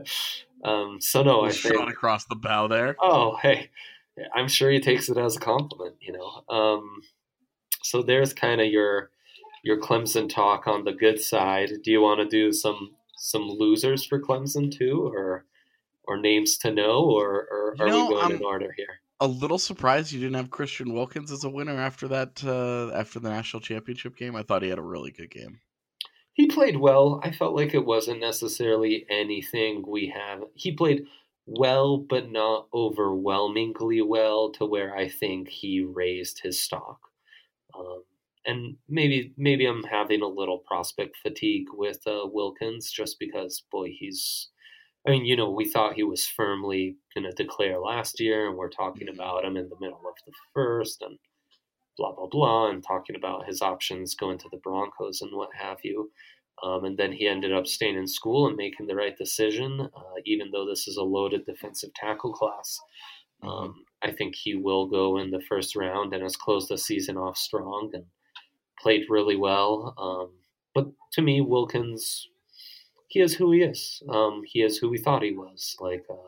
um, so no, I think shot across the bow there. Oh, hey, I'm sure he takes it as a compliment, you know. Um, so there's kind of your your Clemson talk on the good side. Do you want to do some some losers for Clemson too, or or names to know, or, or are know, we going I'm in order here? A little surprised you didn't have Christian Wilkins as a winner after that uh, after the national championship game. I thought he had a really good game. He played well. I felt like it wasn't necessarily anything we have. He played well, but not overwhelmingly well to where I think he raised his stock. Um, and maybe maybe I'm having a little prospect fatigue with uh, Wilkins just because, boy, he's... I mean, you know, we thought he was firmly going to declare last year, and we're talking about him in the middle of the first and blah, blah, blah, and talking about his options going to the Broncos and what have you. Um, and then he ended up staying in school and making the right decision, uh, even though this is a loaded defensive tackle class. Um, mm-hmm. I think he will go in the first round and has closed the season off strong and played really well. Um, but to me, Wilkins, he is who he is. Um, he is who we thought he was, like a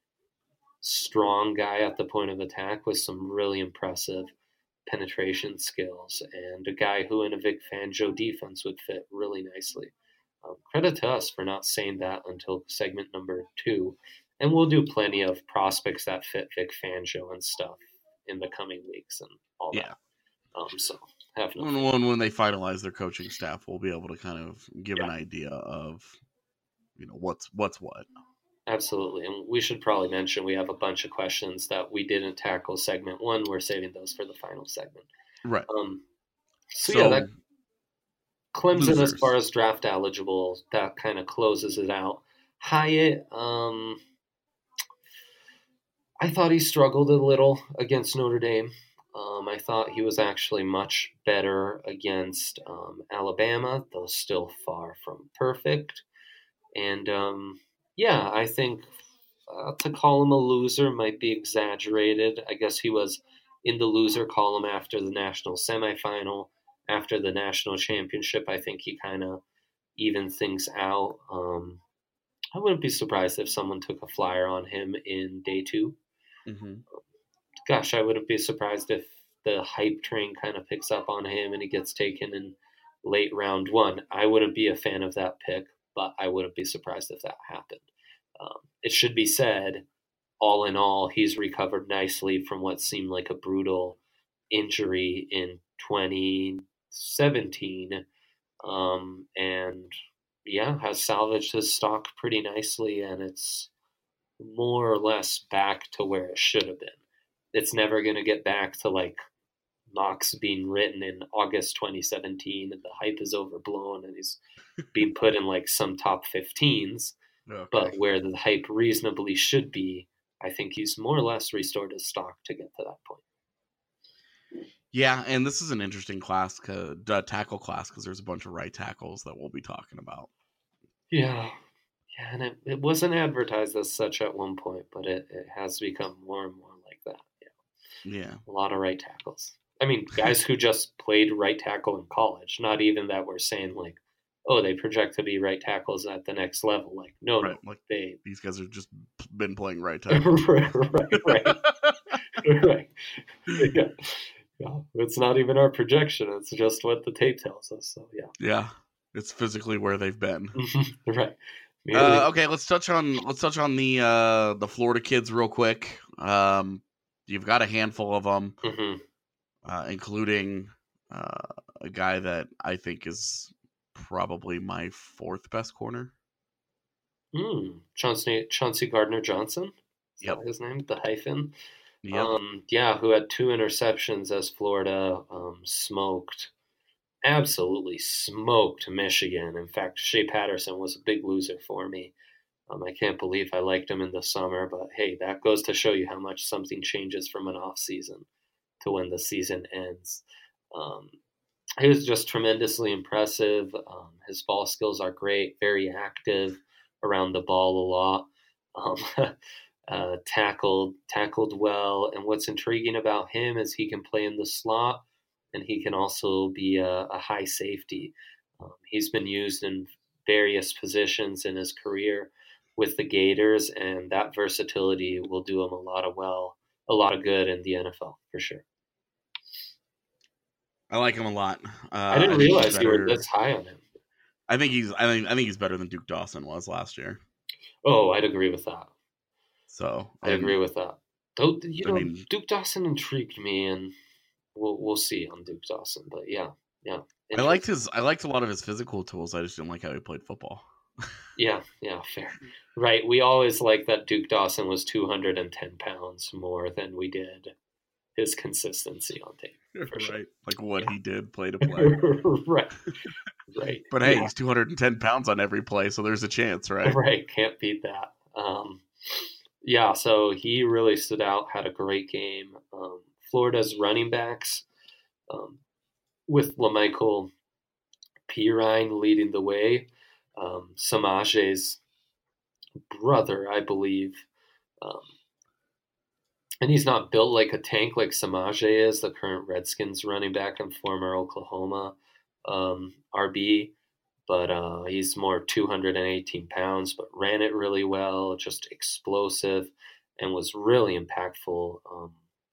strong guy at the point of attack with some really impressive penetration skills, and a guy who in a Vic Fangio defense would fit really nicely. Um, credit to us for not saying that until segment number two, and we'll do plenty of prospects that fit Vic Fangio and stuff in the coming weeks and all yeah. that. Um, so have no when, when when they finalize their coaching staff, we'll be able to kind of give yeah. an idea of, you know, what's what's what. Absolutely. And we should probably mention we have a bunch of questions that we didn't tackle segment one. We're saving those for the final segment. Right. Um, so, so yeah, that Clemson, losers. as far as draft eligible, that kind of closes it out. Hyatt, um, I thought he struggled a little against Notre Dame. Um, I thought he was actually much better against um, Alabama, though still far from perfect. And, um, yeah, I think uh, to call him a loser might be exaggerated. I guess he was in the loser column after the national semifinal, after the national championship. I think he kind of evened things out. Um, I wouldn't be surprised if someone took a flyer on him in day two. Mm-hmm. Gosh, I wouldn't be surprised if the hype train kind of picks up on him and he gets taken in late round one. I wouldn't be a fan of that pick, but I wouldn't be surprised if that happened. Um, it should be said, all in all, he's recovered nicely from what seemed like a brutal injury in twenty seventeen. Um, and yeah, has salvaged his stock pretty nicely, and it's more or less back to where it should have been. It's never going to get back to like Knox being written in August twenty seventeen and the hype is overblown and he's being put in like some top fifteens. Okay. But where the hype reasonably should be, I think he's more or less restored his stock to get to that point. Yeah, and this is an interesting class, uh, tackle class, because there's a bunch of right tackles that we'll be talking about. Yeah. Yeah, and it, it wasn't advertised as such at one point, but it, it has become more and more like that. Yeah. Yeah. A lot of right tackles. I mean, guys who just played right tackle in college, not even that we're saying like, oh, they project to be right tackles at the next level. Like, no, Right. no, Like they these guys have just been playing right tackle. right, right, right, right. Yeah. Yeah, it's not even our projection; it's just what the tape tells us. So, yeah, Yeah. It's physically where they've been. right. Merely, Uh, okay, let's touch on let's touch on the uh, the Florida kids real quick. Um, you've got a handful of them, mhm. uh, including uh, a guy that I think is probably my fourth best corner. Mm, Chauncey Chauncey Gardner Johnson. Is Yep. that his name? The hyphen. Yep. Um, yeah, who had two interceptions as Florida um, smoked, absolutely smoked Michigan. In fact, Shea Patterson was a big loser for me. Um, I can't believe I liked him in the summer, but hey, that goes to show you how much something changes from an off season to when the season ends. Um, he was just tremendously impressive. Um, his ball skills are great, very active around the ball a lot. Um, uh, tackled tackled well, and what's intriguing about him is he can play in the slot, and he can also be a, a high safety. Um, he's been used in various positions in his career with the Gators, and that versatility will do him a lot of well, a lot of good in the N F L for sure. I like him a lot. Uh, I didn't think he's realize you were better- this high on him. I think he's. I think. I think he's better than Duke Dawson was last year. Oh, I'd agree with that. So I and- agree with that. Though, you I know, mean- Duke Dawson intrigued me, and we'll we'll see on Duke Dawson. But yeah, yeah, I liked his. I liked a lot of his physical tools. I just didn't like how he played football. Yeah, yeah, fair. Right. We always like that Duke Dawson was two hundred ten pounds more than we did his consistency on tape. For sure. Right, like what he did play to play. right. Right. But hey, Yeah. he's two hundred ten pounds on every play, so there's a chance, right? Right. Can't beat that. Um, yeah, so he really stood out, had a great game. Um, Florida's running backs, um, with LaMichael Pirine leading the way. Um, Samaje's brother, I believe. Um, and he's not built like a tank like Samaje is, the current Redskins running back and former Oklahoma um, R B. But uh, he's more two hundred eighteen pounds, but ran it really well, just explosive, and was really impactful um,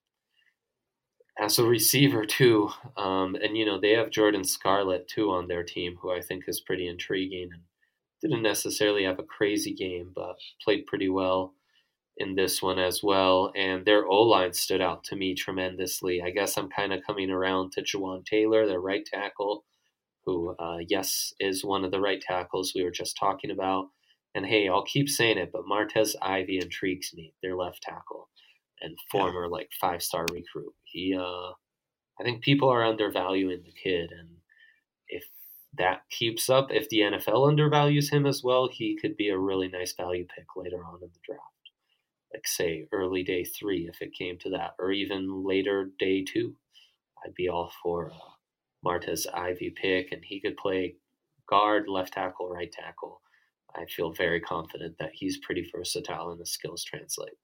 as a receiver too. Um, and, you know, they have Jordan Scarlett too on their team, who I think is pretty intriguing and didn't necessarily have a crazy game, but played pretty well in this one as well. And their O-line stood out to me tremendously. I guess I'm kind of coming around to Juwan Taylor, their right tackle, who, uh, yes, is one of the right tackles we were just talking about. And hey, I'll keep saying it, but Martez Ivey intrigues me, their left tackle and former like five-star recruit. He, uh, I think people are undervaluing the kid, and if that keeps up, if the N F L undervalues him as well, he could be a really nice value pick later on in the draft. Like say early day three, if it came to that, or even later day two, I'd be all for uh, Martez Ivey pick, and he could play guard, left tackle, right tackle. I feel very confident that he's pretty versatile and the skills translate.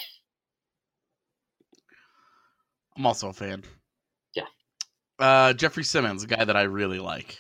I'm also a fan. Yeah. Uh, Jeffrey Simmons, a guy that I really like.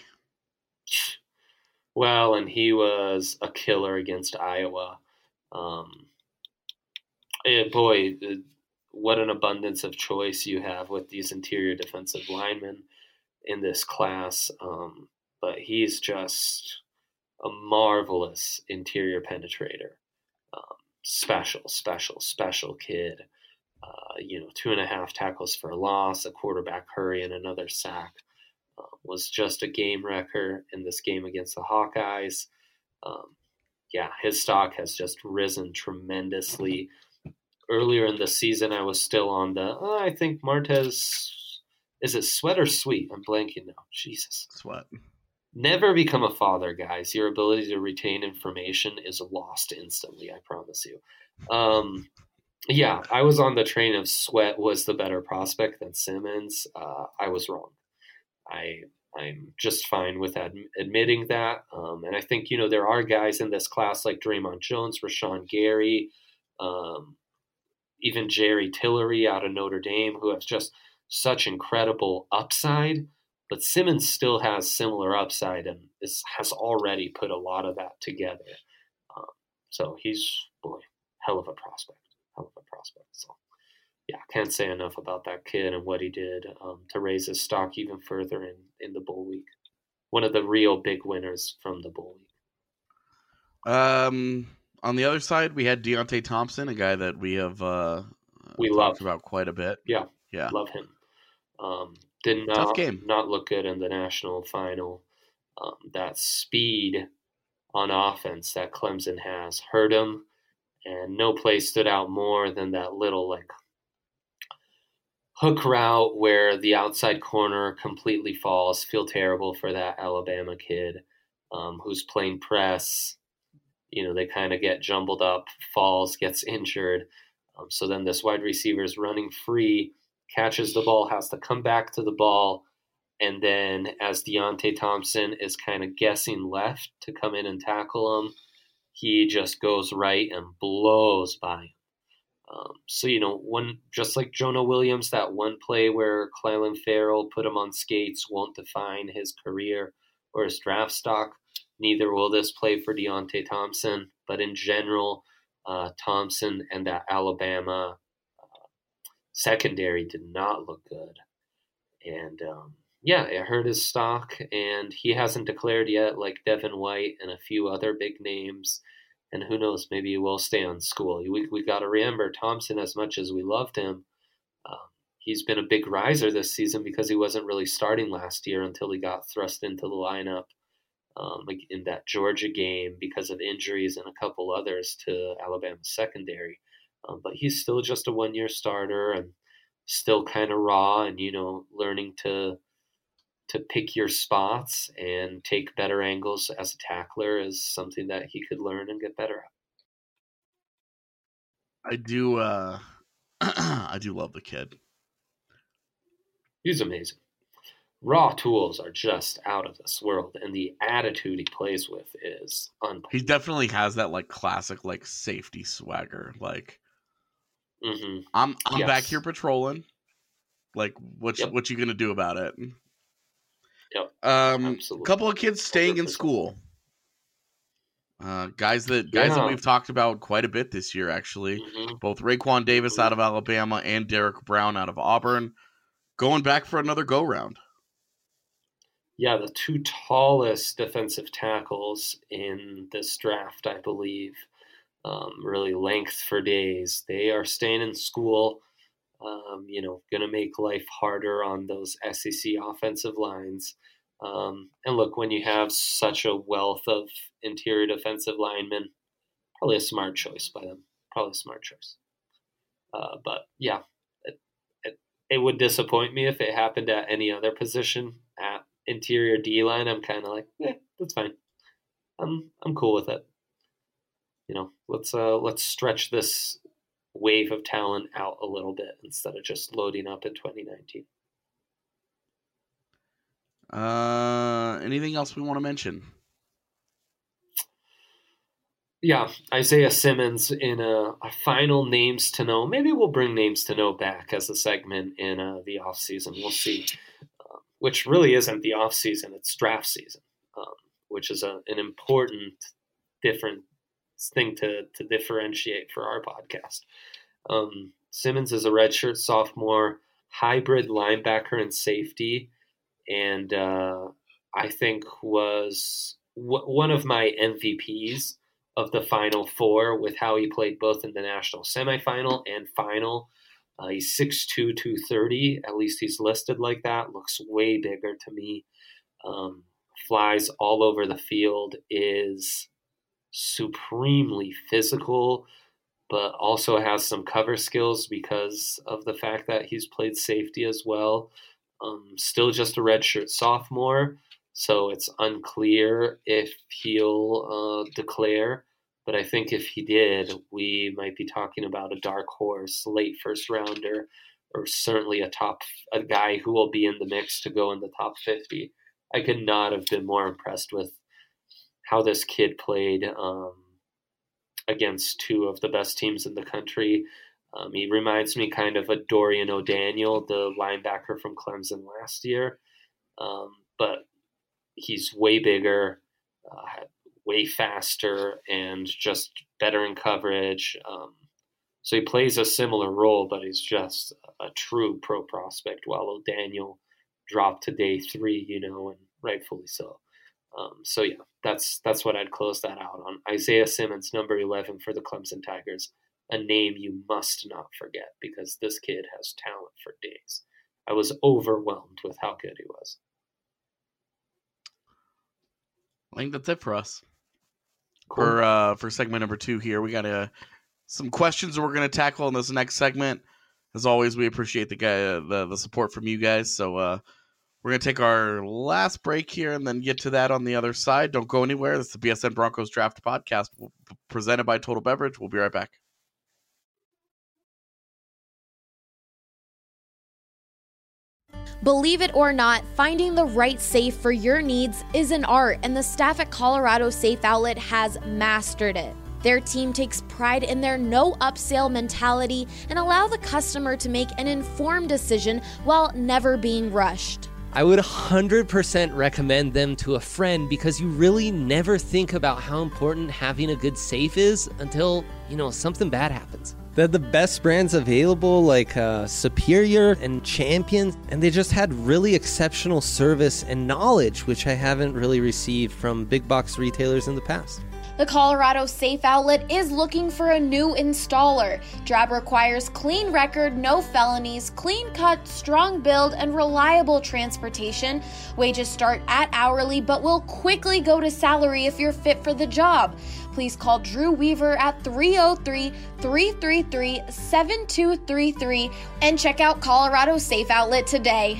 Well, and he was a killer against Iowa. Um, eh, boy, eh, what an abundance of choice you have with these interior defensive linemen in this class. Um, but he's just a marvelous interior penetrator. Um, special, special, special kid. Uh, you know, two and a half tackles for a loss, a quarterback hurry, and another sack. Uh, was just a game wrecker in this game against the Hawkeyes. Um, yeah, his stock has just risen tremendously. Earlier in the season, I was still on the, oh, I think Martez, is it Sweat or Sweet? I'm blanking now. Jesus. Sweat. Never become a father, guys. Your ability to retain information is lost instantly, I promise you. Um, yeah, I was on the train of Sweat was the better prospect than Simmons. Uh, I was wrong. I I'm just fine with ad- admitting that. Um, and I think, you know, there are guys in this class like Draymond Jones, Rashawn Gary, um, even Jerry Tillery out of Notre Dame, who have just such incredible upside. But Simmons still has similar upside and is, has already put a lot of that together. Um, so he's, boy, hell of a prospect. Hell of a prospect. So, yeah, can't say enough about that kid and what he did um, to raise his stock even further in, in the Bull League. One of the real big winners from the Bull League. Um, on the other side, we had Deontay Thompson, a guy that we have uh, we talked love. about quite a bit. Yeah, yeah, love him. Um, did not, Tough game. not look good in the national final. Um, that speed on offense that Clemson has hurt him, and no play stood out more than that little like hook route where the outside corner completely falls. Feel terrible for that Alabama kid um, who's playing press. You know, they kind of get jumbled up, falls, gets injured. Um, so then this wide receiver is running free, catches the ball, has to come back to the ball. And then as Deontay Thompson is kind of guessing left to come in and tackle him, he just goes right and blows by him. Um, so, you know, one just like Jonah Williams, that one play where Clelin Ferrell put him on skates won't define his career or his draft stock. Neither will this play for Deontay Thompson. But in general, uh, Thompson and that Alabama uh, secondary did not look good. And, um, yeah, it hurt his stock. And he hasn't declared yet, like Devin White and a few other big names. And who knows, maybe he will stay on school. We we got to remember Thompson, as much as we loved him, um, he's been a big riser this season because he wasn't really starting last year until he got thrust into the lineup um, like in that Georgia game because of injuries and a couple others to Alabama's secondary. Um, but he's still just a one-year starter and still kind of raw and, you know, learning to to pick your spots and take better angles as a tackler is something that he could learn and get better at. I do uh I do love the kid. He's amazing. Raw tools are just out of this world, and the attitude he plays with is unbelievable. He definitely has that like classic like safety swagger. Like mm-hmm. I'm I'm yes. back here patrolling. Like what Yep. what you gonna do about it? Yep. Um, Absolutely. a couple of kids staying in school. Uh, guys that guys Yeah. that we've talked about quite a bit this year, actually. Mm-hmm. Both Raekwon Davis out of Alabama and Derek Brown out of Auburn, going back for another go round. Yeah, the two tallest defensive tackles in this draft, I believe, um, really length for days. They are staying in school. Um, you know, going to make life harder on those S E C offensive lines. Um, and look, when you have such a wealth of interior defensive linemen, probably a smart choice by them. Probably a smart choice. Uh, but yeah, it, it, it would disappoint me if it happened at any other position. At interior D line, I'm kind of like, eh, that's fine. I'm I'm cool with it. You know, let's uh, let's stretch this wave of talent out a little bit instead of just loading up in twenty nineteen. Uh, anything else we want to mention? Yeah, Isaiah Simmons in a, a final names to know. Maybe we'll bring names to know back as a segment in uh, the off season. We'll see. Uh, which really isn't the off season; it's draft season, um, which is a, an important different thing to to differentiate for our podcast. Um, Simmons is a redshirt sophomore, hybrid linebacker and safety, and uh, I think was w- one of my M V Ps of the Final Four with how he played both in the national semifinal and final. Uh, he's six two, two thirty. At least he's listed like that. Looks way bigger to me. Um, flies all over the field, is supremely physical, but also has some cover skills because of the fact that he's played safety as well. Um, still just a redshirt sophomore, so it's unclear if he'll uh, declare. But I think if he did, we might be talking about a dark horse, late first rounder, or certainly a top a guy who will be in the mix to go in the top fifty I could not have been more impressed with how this kid played um, against two of the best teams in the country. Um, he reminds me kind of a Dorian O'Daniel, the linebacker from Clemson last year. Um, but he's way bigger, uh, way faster, and just better in coverage. Um, so he plays a similar role, but he's just a true pro prospect, while O'Daniel dropped to day three, you know, and rightfully so. Um, so, yeah, that's that's what I'd close that out on. Isaiah Simmons, number eleven for the Clemson Tigers, a name you must not forget because this kid has talent for days. I was overwhelmed with how good he was. I think that's it for us. Cool. For uh, for segment number two here, we got uh, some questions that we're going to tackle in this next segment. As always, we appreciate the guy, uh, the the support from you guys. So uh, we're going to take our last break here and then get to that on the other side. Don't go anywhere. This is the B S N Broncos Draft Podcast presented by Total Beverage. We'll be right back. Believe it or not, finding the right safe for your needs is an art, and the staff at Colorado Safe Outlet has mastered it. Their team takes pride in their no upsell mentality and allow the customer to make an informed decision while never being rushed. I would one hundred percent recommend them to a friend because you really never think about how important having a good safe is until, you know, something bad happens. They're the best brands available, like uh, Superior and Champion, and they just had really exceptional service and knowledge, which I haven't really received from big box retailers in the past. The Colorado Safe Outlet is looking for a new installer. Drab requires clean record, no felonies, clean cut, strong build, and reliable transportation. Wages start at hourly, but will quickly go to salary if you're fit for the job. Please call Drew Weaver at three oh three, three three three, seven two three three and check out Colorado Safe Outlet today.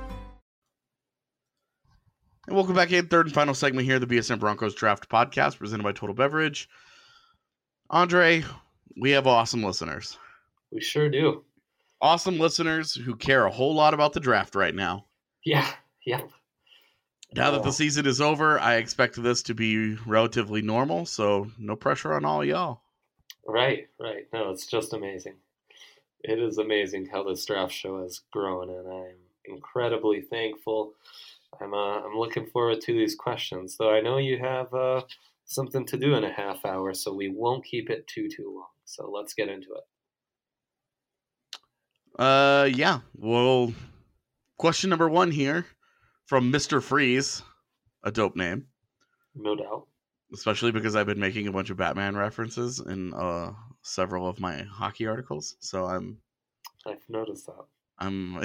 And welcome back in, third and final segment here, the B S N Broncos Draft Podcast, presented by Total Beverage. Andre, we have awesome listeners. We sure do. Awesome listeners who care a whole lot about the draft right now. Yeah, yeah. Now that the season is over, I expect this to be relatively normal, so no pressure on all y'all. Right, right. No, it's just amazing. It is amazing how this draft show has grown, and I'm incredibly thankful. I'm uh, I'm looking forward to these questions, though I know you have uh, something to do in a half hour, so we won't keep it too, too long. So let's get into it. Uh, yeah. Well, question number one here from Mister Freeze, a dope name. No doubt. Especially because I've been making a bunch of Batman references in uh, several of my hockey articles, so I'm... I've noticed that. I'm...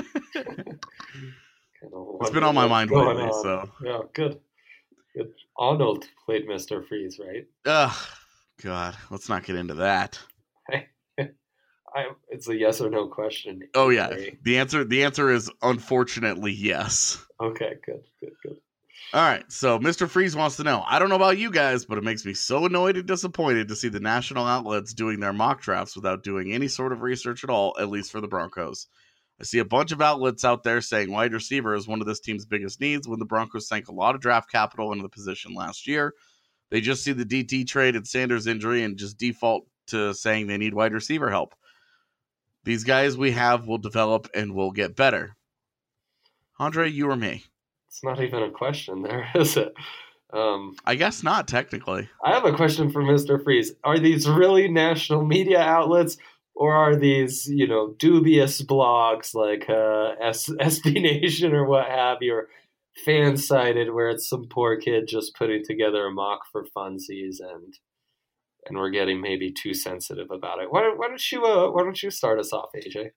It's It's been on my mind lately, on. so... Yeah, good. Good. Arnold played Mister Freeze, right? Ugh, God, let's not get into that. I, it's a yes or no question. Oh, yeah. The answer, the answer is unfortunately yes. Okay, good, good, good. All right, so Mister Freeze wants to know, I don't know about you guys, but it makes me so annoyed and disappointed to see the national outlets doing their mock drafts without doing any sort of research at all, at least for the Broncos. I see a bunch of outlets out there saying wide receiver is one of this team's biggest needs when the Broncos sank a lot of draft capital into the position last year. They just see the D T trade and Sanders injury and just default to saying they need wide receiver help. These guys we have will develop and will get better. Andre, you or me? It's not even a question there, is it? Um, I guess not, technically. I have a question for Mister Freeze. Are these really national media outlets, or are these, you know, dubious blogs like uh, S- SB Nation or what have you, or fan-sided where it's some poor kid just putting together a mock for funsies and and we're getting maybe too sensitive about it? Why don't, why don't you uh, why don't you start us off, A J?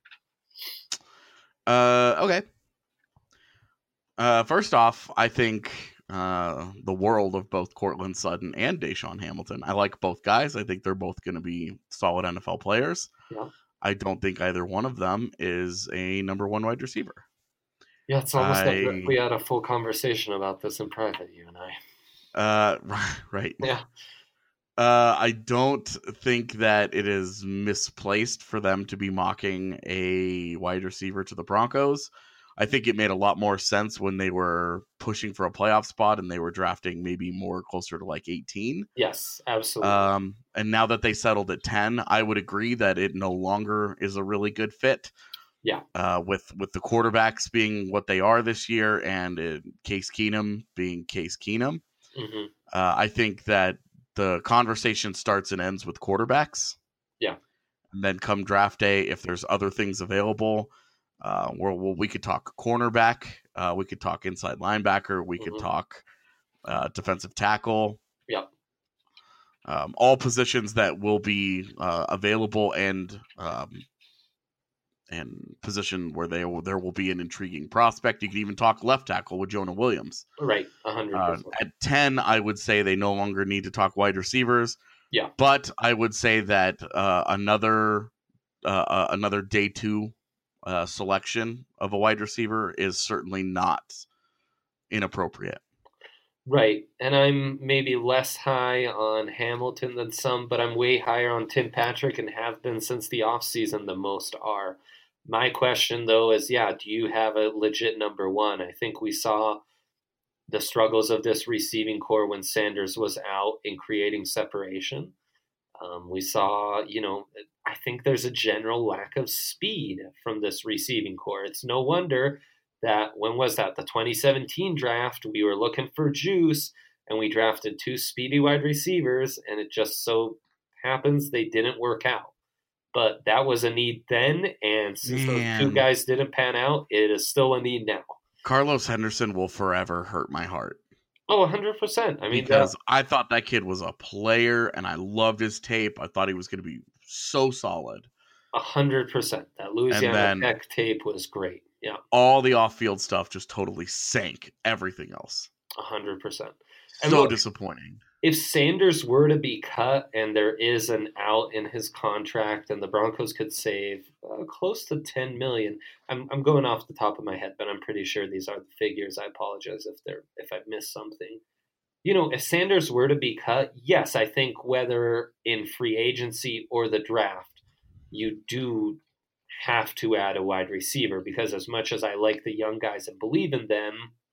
Uh, okay. Uh, first off, I think uh, the world of both Courtland Sutton and Deshaun Hamilton. I like both guys. I think they're both going to be solid N F L players. Yeah. I don't think either one of them is a number one wide receiver. Yeah, it's almost I, like we had a full conversation about this in private, you and I. Uh, right. Yeah. Uh, I don't think that it is misplaced for them to be mocking a wide receiver to the Broncos. I think it made a lot more sense when they were pushing for a playoff spot and they were drafting maybe more closer to like eighteen. Yes, absolutely. Um, and now that they settled at ten, I would agree that it no longer is a really good fit. Yeah. Uh, with with the quarterbacks being what they are this year, and uh, Case Keenum being Case Keenum, mm-hmm. uh, I think that the conversation starts and ends with quarterbacks. Yeah. And then come draft day, if there's other things available, uh, where well, we could talk cornerback, uh, we could talk inside linebacker, we mm-hmm. could talk uh, defensive tackle. Yeah. Um, all positions that will be uh, available and um, and position where they will, there will be an intriguing prospect. You could even talk left tackle with Jonah Williams. Right, one hundred percent. Uh, at ten, I would say they no longer need to talk wide receivers. Yeah. But I would say that uh, another uh, uh, another day two uh, selection of a wide receiver is certainly not inappropriate. Right. And I'm maybe less high on Hamilton than some, but I'm way higher on Tim Patrick and have been since the offseason, the most are. My question, though, is, yeah, do you have a legit number one? I think we saw the struggles of this receiving core when Sanders was out in creating separation. Um, we saw, you know, I think there's a general lack of speed from this receiving core. It's no wonder that, when was that? The twenty seventeen draft, we were looking for juice and we drafted two speedy wide receivers, and it just so happens they didn't work out. But that was a need then, and since Man. those two guys didn't pan out, it is still a need now. Carlos Henderson will forever hurt my heart. Oh, one hundred percent. I mean, because that, I thought that kid was a player, and I loved his tape. I thought he was going to be so solid. one hundred percent. That Louisiana then, Tech tape was great. Yeah. All the off-field stuff just totally sank everything else. one hundred percent. So look, disappointing. If Sanders were to be cut and there is an out in his contract and the Broncos could save uh, close to ten million dollars, I'm I'm going off the top of my head, but I'm pretty sure these are the figures. I apologize if they're if I've missed something. You know, if Sanders were to be cut, yes, I think whether in free agency or the draft, you do have to add a wide receiver, because as much as I like the young guys and believe in them,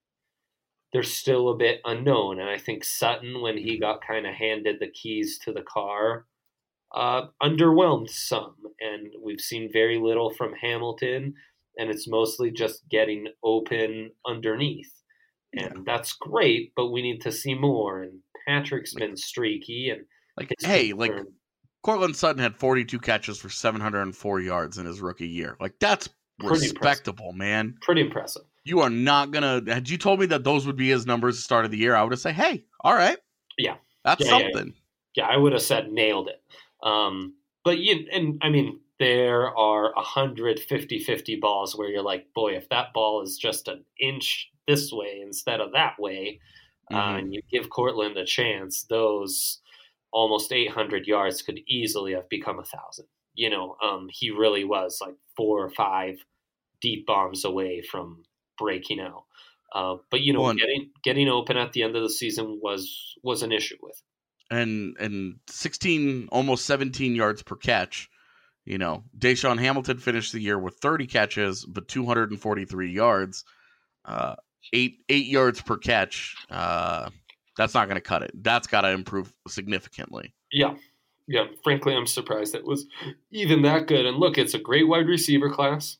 they're still a bit unknown. And I think Sutton, when he got kind of handed the keys to the car, uh, underwhelmed some. And we've seen very little from Hamilton, and it's mostly just getting open underneath. And yeah. that's great, but we need to see more. And Patrick's been streaky. And like, hey, like Cortland Sutton had forty-two catches for seven hundred four yards in his rookie year. Like, that's Pretty respectable, impressive. man. Pretty impressive. You are not going to... Had you told me that those would be his numbers at the start of the year, I would have said, hey, all right. Yeah. That's yeah, something. Yeah, yeah. yeah, I would have said nailed it. Um, but, you, and I mean, there are one hundred fifty-fifty balls where you're like, boy, if that ball is just an inch this way instead of that way, mm-hmm. uh, and you give Cortland a chance, those almost eight hundred yards could easily have become a thousand. You know, um, he really was like four or five deep bombs away from breaking out. Uh, but, you know, One, getting getting open at the end of the season was was an issue with him. And, and sixteen, almost seventeen yards per catch. You know, Deshaun Hamilton finished the year with thirty catches, but two hundred forty-three yards, uh, eight eight yards per catch. Uh, that's not going to cut it. That's got to improve significantly. Yeah. Yeah, frankly, I'm surprised it was even that good. And look, it's a great wide receiver class.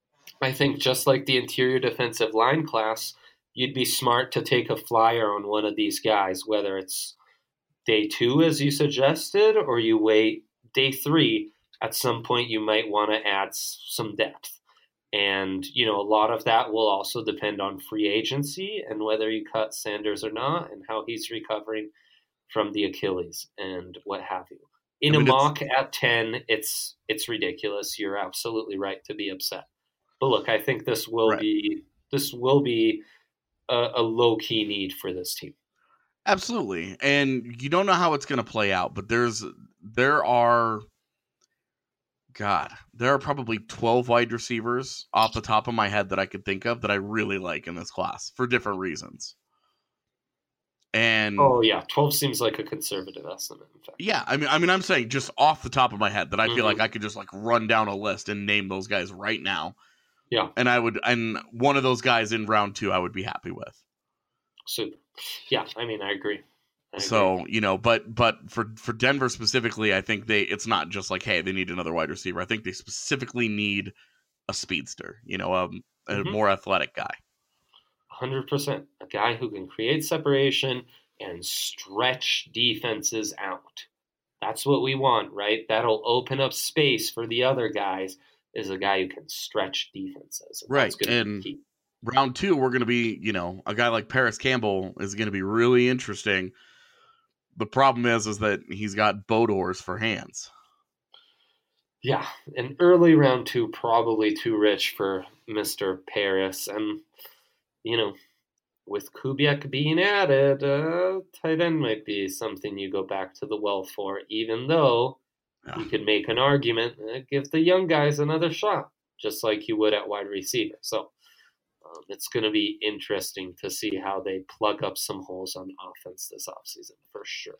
I think just like the interior defensive line class, you'd be smart to take a flyer on one of these guys, whether it's day two, as you suggested, or you wait day three. At some point, you might want to add some depth. And, you know, a lot of that will also depend on free agency and whether you cut Sanders or not and how he's recovering from the Achilles and what have you. In I mean, a mock at ten, it's it's ridiculous. You're absolutely right to be upset. But look, I think this will right. be this will be a, a low key need for this team. Absolutely, and you don't know how it's going to play out. But there's there are, God, there are probably twelve wide receivers off the top of my head that I could think of that I really like in this class for different reasons. And oh yeah, twelve seems like a conservative estimate. In fact, yeah, I mean, I mean, I'm saying just off the top of my head that I feel mm-hmm. like I could just like run down a list and name those guys right now. Yeah. And I would, and one of those guys in round two, I would be happy with. Super. Yeah, I mean, I agree. I agree. So, you know, but but for, for Denver specifically, I think they it's not just like, hey, they need another wide receiver. I think they specifically need a speedster, you know, um, a Mhm. more athletic guy. one hundred percent. A guy who can create separation and stretch defenses out. That's what we want, right? That'll open up space for the other guys, is a guy who can stretch defenses. And Right. That's gonna And be key. round two, we're going to be, you know, a guy like Paris Campbell is going to be really interesting. The problem is, is that he's got Bodors for hands. Yeah, an early round two, probably too rich for Mister Paris. And, you know, with Kubiak being added, uh, tight end might be something you go back to the well for, even though Yeah. you could make an argument, uh, give the young guys another shot, just like you would at wide receiver. So um, it's going to be interesting to see how they plug up some holes on offense this offseason, for sure.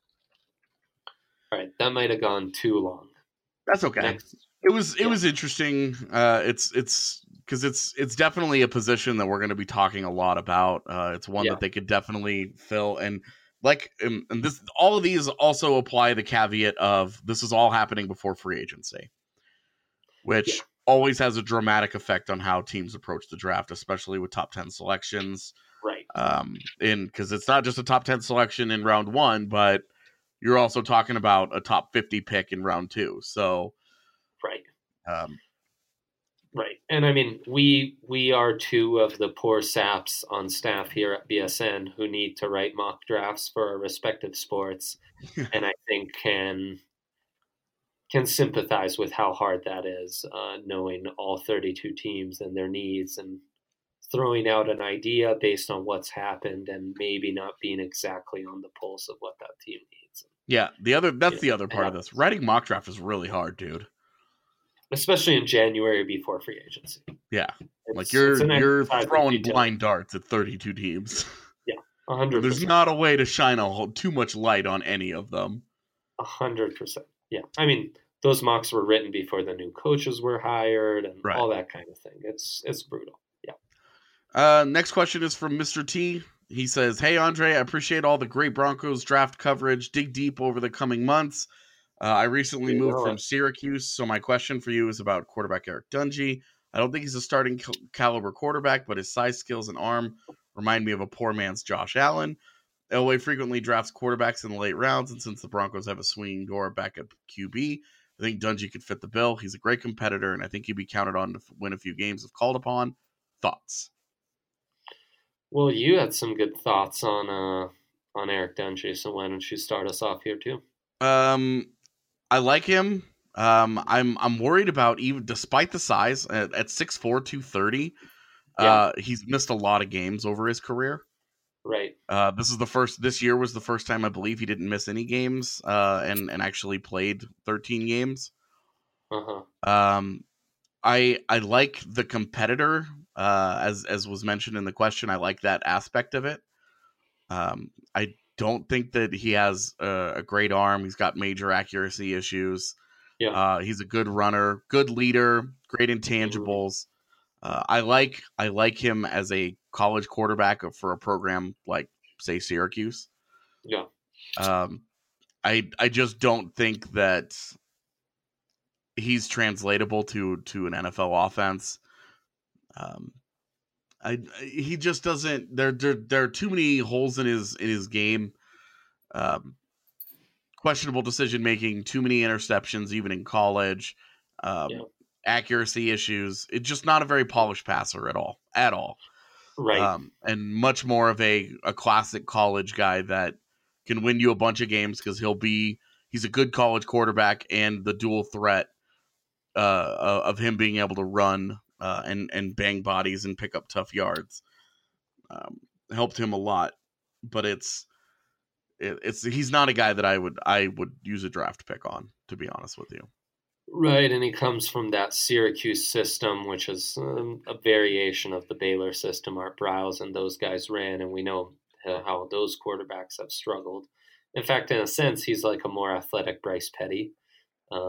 All right, that might have gone too long. That's okay. Next. It was it Yeah. was interesting. Uh, it's it's because it's it's definitely a position that we're going to be talking a lot about. Uh, it's one Yeah. that they could definitely fill, and like and, and this all of these also apply the caveat of this is all happening before free agency, which Yeah. always has a dramatic effect on how teams approach the draft, especially with top ten selections. Right. Um, in because it's not just a top ten selection in round one, but you're also talking about a top fifty pick in round two. So, Right. um, Right. And I mean, we we are two of the poor saps on staff here at B S N who need to write mock drafts for our respective sports, and I think can can sympathize with how hard that is, uh, knowing all thirty-two teams and their needs, and throwing out an idea based on what's happened and maybe not being exactly on the pulse of what that team needs. yeah, the other that's Yeah, the other part of this. Writing mock draft is really hard, dude. Especially in January before free agency. Yeah, It's- like you're it's an you're exercise in throwing detail. blind darts at thirty-two teams. one hundred percent. There's not a way to shine a whole, too much light on any of them. A hundred percent. Yeah. I mean, those mocks were written before the new coaches were hired and Right. all that kind of thing. It's it's brutal. Yeah. Uh, next question is from Mister T. He says, "Hey Andre, I appreciate all the great Broncos draft coverage. Dig deep over the coming months. Uh, I recently You moved know from it. Syracuse, so my question for you is about quarterback Eric Dungey. I don't think he's a starting cal- caliber quarterback, but his size, skills, and arm remind me of a poor man's Josh Allen. Elway frequently drafts quarterbacks in the late rounds, and since the Broncos have a swinging door back at Q B, I think Dungey could fit the bill. He's a great competitor, and I think he'd be counted on to f- win a few games if called upon. Thoughts?" Well, you had some good thoughts on uh on Eric Dungey, so why don't you start us off here too? Um, I like him. Um, I'm I'm worried about even despite the size at, at six four, two thirty. Uh, he's missed a lot of games over his career. Right. Uh, this is the first. This year was the first time I believe he didn't miss any games. Uh, and and actually played thirteen games. Uh-huh. Um, I I like the competitor. Uh, as as was mentioned in the question, I like that aspect of it. Um, I don't think that he has a, a great arm. He's got major accuracy issues. Yeah. Uh, he's a good runner, good leader, great intangibles. Uh, I like I like him as a college quarterback for a program like, say, Syracuse. Yeah. Um, I I just don't think that he's translatable to to an N F L offense. Um, I he just doesn't. There there there are too many holes in his in his game. Um, questionable decision making, too many interceptions, even in college. Um, Yeah. Accuracy issues. It's just not a very polished passer at all, at all. Right. Um, and much more of a a classic college guy that can win you a bunch of games because he'll be he's a good college quarterback, and the dual threat uh, of him being able to run uh, and and bang bodies and pick up tough yards um, helped him a lot. But it's it, it's he's not a guy that I would I would use a draft pick on, to be honest with you. Right, and he comes from that Syracuse system, which is um, a variation of the Baylor system Art Briles and those guys ran, and we know uh, how those quarterbacks have struggled. In fact, in a sense, he's like a more athletic Bryce Petty. Um,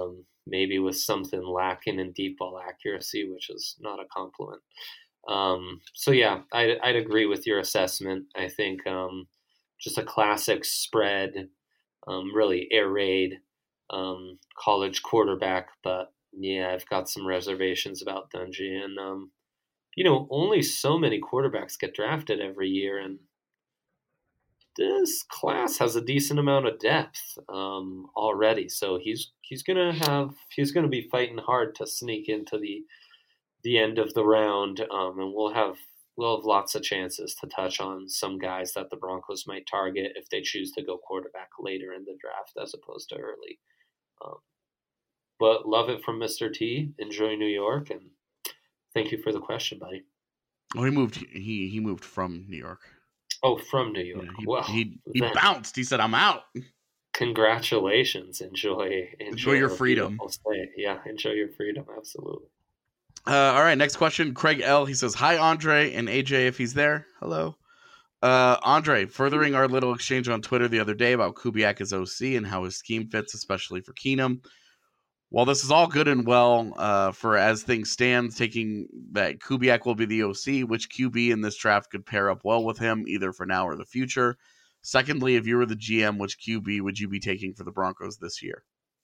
maybe with something lacking in deep ball accuracy, which is not a compliment. Um, so yeah, I'd, I'd agree with your assessment. I think um, just a classic spread, um, really air raid um, college quarterback. But yeah, I've got some reservations about Dungey. And, um, you know, only so many quarterbacks get drafted every year. And this class has a decent amount of depth um, already. So he's he's going to have he's going to be fighting hard to sneak into the the end of the round, um, and we'll have we'll have lots of chances to touch on some guys that the Broncos might target if they choose to go quarterback later in the draft as opposed to early. Um, but love it from Mister T. Enjoy New York, and thank you for the question, buddy. Oh, he moved. He he moved from New York. Oh, from New York. Yeah, he, well, he he then, bounced. He said, "I'm out." Congratulations. Enjoy enjoy, Enjoy your freedom. Yeah, enjoy your freedom. Absolutely. Uh, all right, next question. Craig L. He says, "Hi, Andre and A J, if he's there. Hello, uh, Andre. Furthering our little exchange on Twitter the other day about Kubiak as O C and how his scheme fits, especially for Keenum. While this is all good and well, uh, for as things stand, taking that Kubiak will be the O C, which Q B in this draft could pair up well with him, either for now or the future? Secondly, if you were the G M, which Q B would you be taking for the Broncos this year?"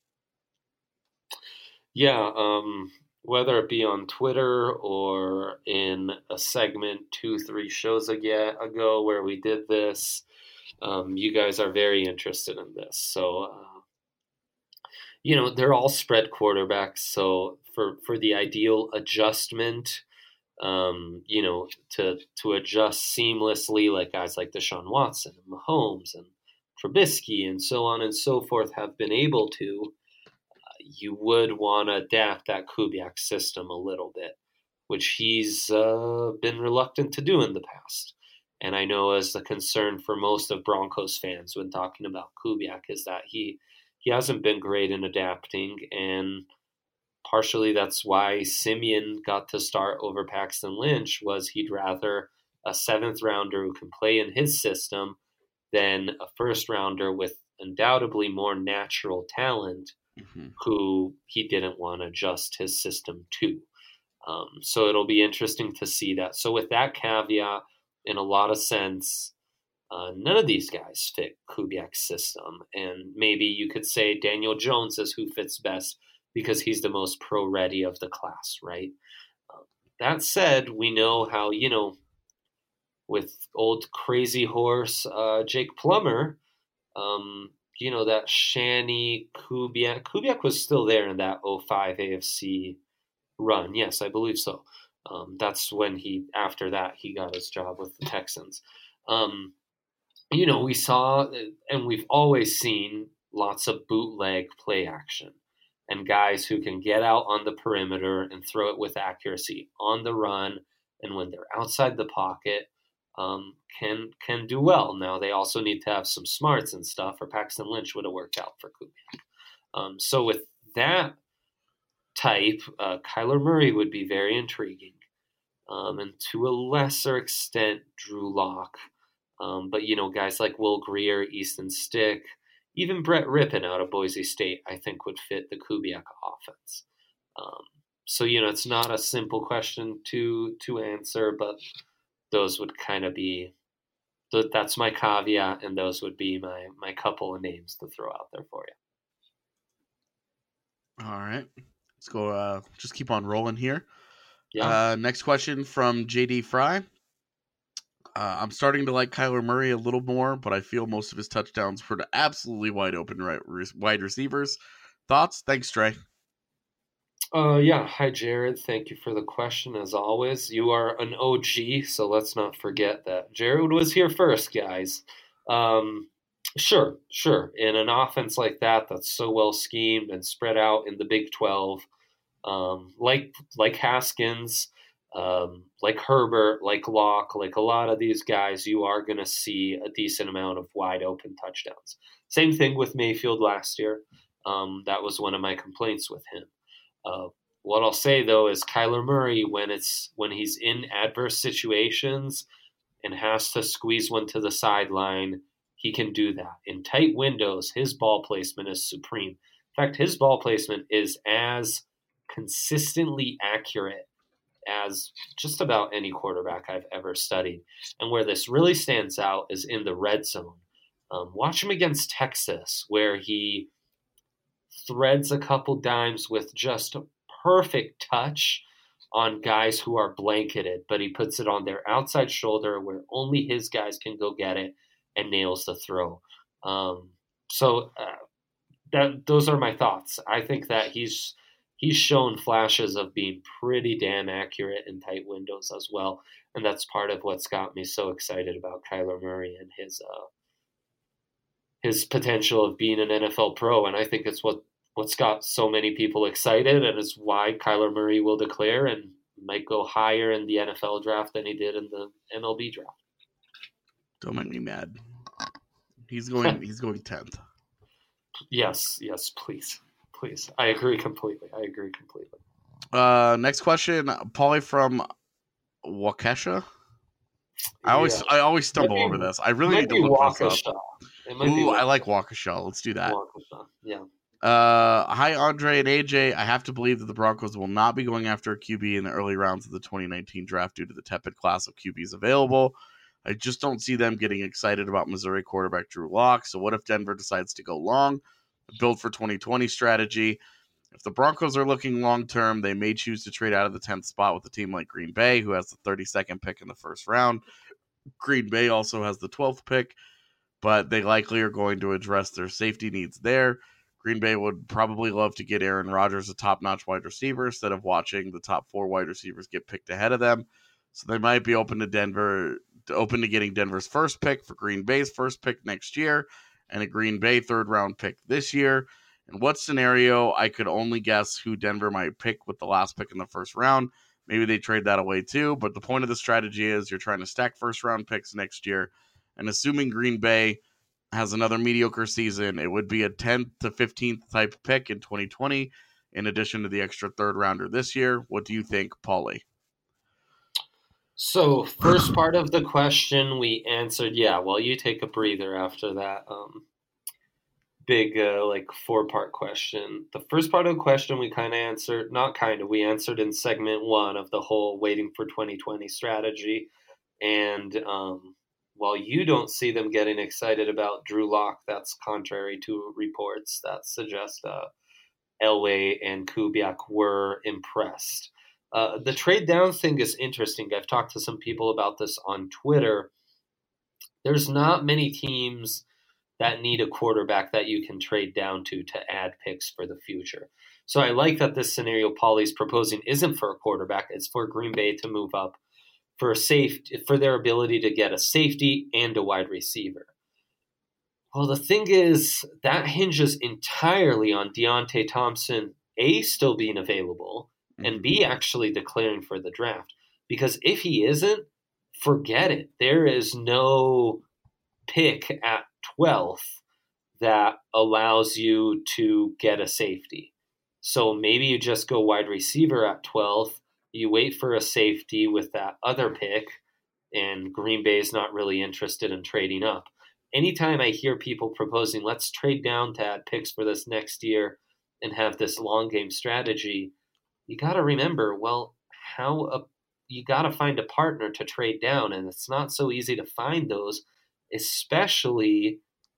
Yeah, um, whether it be on Twitter or in a segment two, three shows ago where we did this, um, you guys are very interested in this. So, uh, you know, they're all spread quarterbacks. So for, for the ideal adjustment, um, you know, to to adjust seamlessly, like guys like Deshaun Watson and Mahomes and Trubisky and so on and so forth have been able to, you would want to adapt that Kubiak system a little bit, which he's uh, been reluctant to do in the past. And I know as the concern for most of Broncos fans when talking about Kubiak is that he he hasn't been great in adapting, and partially that's why Simeon got to start over Paxton Lynch, was he'd rather a seventh rounder who can play in his system than a first rounder with undoubtedly more natural talent mm-hmm. who he didn't want to adjust his system to. Um, so it'll be interesting to see that. So with that caveat, in a lot of sense, uh, none of these guys fit Kubiak's system. And maybe you could say Daniel Jones is who fits best because he's the most pro-ready of the class, right? Um, that said, we know how, you know, with old crazy horse uh, Jake Plummer, um, you know, that Shanny Kubiak. Kubiak was still there in that oh five A F C run. Yes, I believe so. Um, that's when he, after that, he got his job with the Texans. Um, you know, we saw, and we've always seen lots of bootleg play action and guys who can get out on the perimeter and throw it with accuracy on the run. And when they're outside the pocket, um, can can do well. Now, they also need to have some smarts and stuff, or Paxton Lynch would have worked out for Kubiak. Um, so with that type, uh, Kyler Murray would be very intriguing. Um, and to a lesser extent, Drew Lock. Um, but, you know, guys like Will Grier, Easton Stick, even Brett Rippon out of Boise State, I think would fit the Kubiak offense. Um, so, you know, it's not a simple question to to answer, but those would kind of be, that's my caveat, and those would be my, my couple of names to throw out there for you. All right. Let's go, uh, just keep on rolling here. Yeah. Uh, next question from J D Fry. Uh, I'm starting to like Kyler Murray a little more, but I feel most of his touchdowns were to absolutely wide open right, wide receivers. Thoughts? Thanks, Trey. Uh, yeah. Hi, Jared. Thank you for the question, as always. You are an O G, so let's not forget that. Jared was here first, guys. Um, sure, sure. In an offense like that, that's so well schemed and spread out in the Big twelve, um, like like Haskins, um, like Herbert, like Locke, like a lot of these guys, you are going to see a decent amount of wide open touchdowns. Same thing with Mayfield last year. Um, that was one of my complaints with him. Uh, what I'll say though is Kyler Murray, when it's when he's in adverse situations and has to squeeze one to the sideline, he can do that. In tight windows, his ball placement is supreme. In fact, his ball placement is as consistently accurate as just about any quarterback I've ever studied. And where this really stands out is in the red zone. Um, watch him against Texas, where he threads a couple dimes with just a perfect touch on guys who are blanketed, but he puts it on their outside shoulder where only his guys can go get it and nails the throw. Um, so uh, that those are my thoughts. I think that he's he's shown flashes of being pretty damn accurate in tight windows as well, and that's part of what's got me so excited about Kyler Murray and his uh, his potential of being an N F L pro. And I think it's what what's got so many people excited, and is why Kyler Murray will declare and might go higher in the N F L draft than he did in the M L B draft. Don't make me mad. He's going. He's going tenth. Yes, yes, please, please. I agree completely. I agree completely. Uh, next question, Paulie from Waukesha. I always, Yeah. I always stumble Might be- over this. I really Might need to be look this Waukesha. up. It might be Ooh, I Waukesha. like Waukesha. Let's do that. Waukesha. Yeah. Uh, hi, Andre and A J. I have to believe that the Broncos will not be going after a Q B in the early rounds of the twenty nineteen draft due to the tepid class of Q Bs available. I just don't see them getting excited about Missouri quarterback Drew Lock. So what if Denver decides to go long, build for twenty twenty strategy? If the Broncos are looking long-term, they may choose to trade out of the tenth spot with a team like Green Bay, who has the thirty-second pick in the first round. Green Bay also has the twelfth pick, but they likely are going to address their safety needs there. Green Bay would probably love to get Aaron Rodgers a top-notch wide receiver instead of watching the top four wide receivers get picked ahead of them. So they might be open to Denver, open to getting Denver's first pick for Green Bay's first pick next year, and a Green Bay third-round pick this year. In what scenario, I could only guess who Denver might pick with the last pick in the first round. Maybe they trade that away too, but the point of the strategy is you're trying to stack first-round picks next year, and assuming Green Bay has another mediocre season, it would be a tenth to fifteenth type pick in twenty twenty, in addition to the extra third rounder this year. What do you think, Paulie? So, first part of the question we answered, yeah, well, you take a breather after that um, big, uh, like, four-part question. The first part of the question we kind of answered, not kind of, we answered in segment one of the whole waiting for twenty twenty strategy. And um, while you don't see them getting excited about Drew Lock, that's contrary to reports that suggest uh, Elway and Kubiak were impressed. Uh, the trade down thing is interesting. I've talked to some people about this on Twitter. There's not many teams that need a quarterback that you can trade down to to add picks for the future. So I like that this scenario Paulie's proposing isn't for a quarterback. It's for Green Bay to move up for a safety, for their ability to get a safety and a wide receiver. Well, the thing is, that hinges entirely on Deontay Thompson, A, still being available, and B, actually declaring for the draft. Because if he isn't, forget it. There is no pick at twelfth that allows you to get a safety. So maybe you just go wide receiver at twelfth, you wait for a safety with that other pick, and Green Bay is not really interested in trading up. Anytime I hear people proposing, let's trade down to add picks for this next year and have this long game strategy, you got to remember, well, how a, you got to find a partner to trade down, and it's not so easy to find those, especially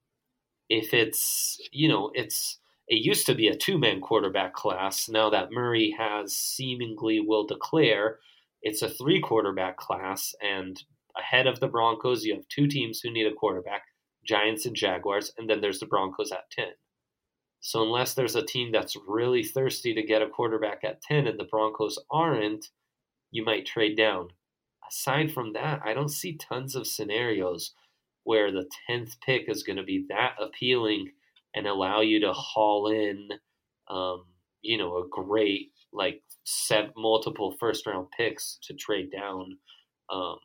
if it's, you know, it's it used to be a two-man quarterback class. Now that Murray has seemingly will declare, it's a three-quarterback class, and ahead of the Broncos, you have two teams who need a quarterback, Giants and Jaguars, and then there's the Broncos at ten. So unless there's a team that's really thirsty to get a quarterback at ten and the Broncos aren't, you might trade down. Aside from that, I don't see tons of scenarios where the tenth pick is going to be that appealing and allow you to haul in, um, you know, a great, like, set multiple first-round picks to trade down. Um,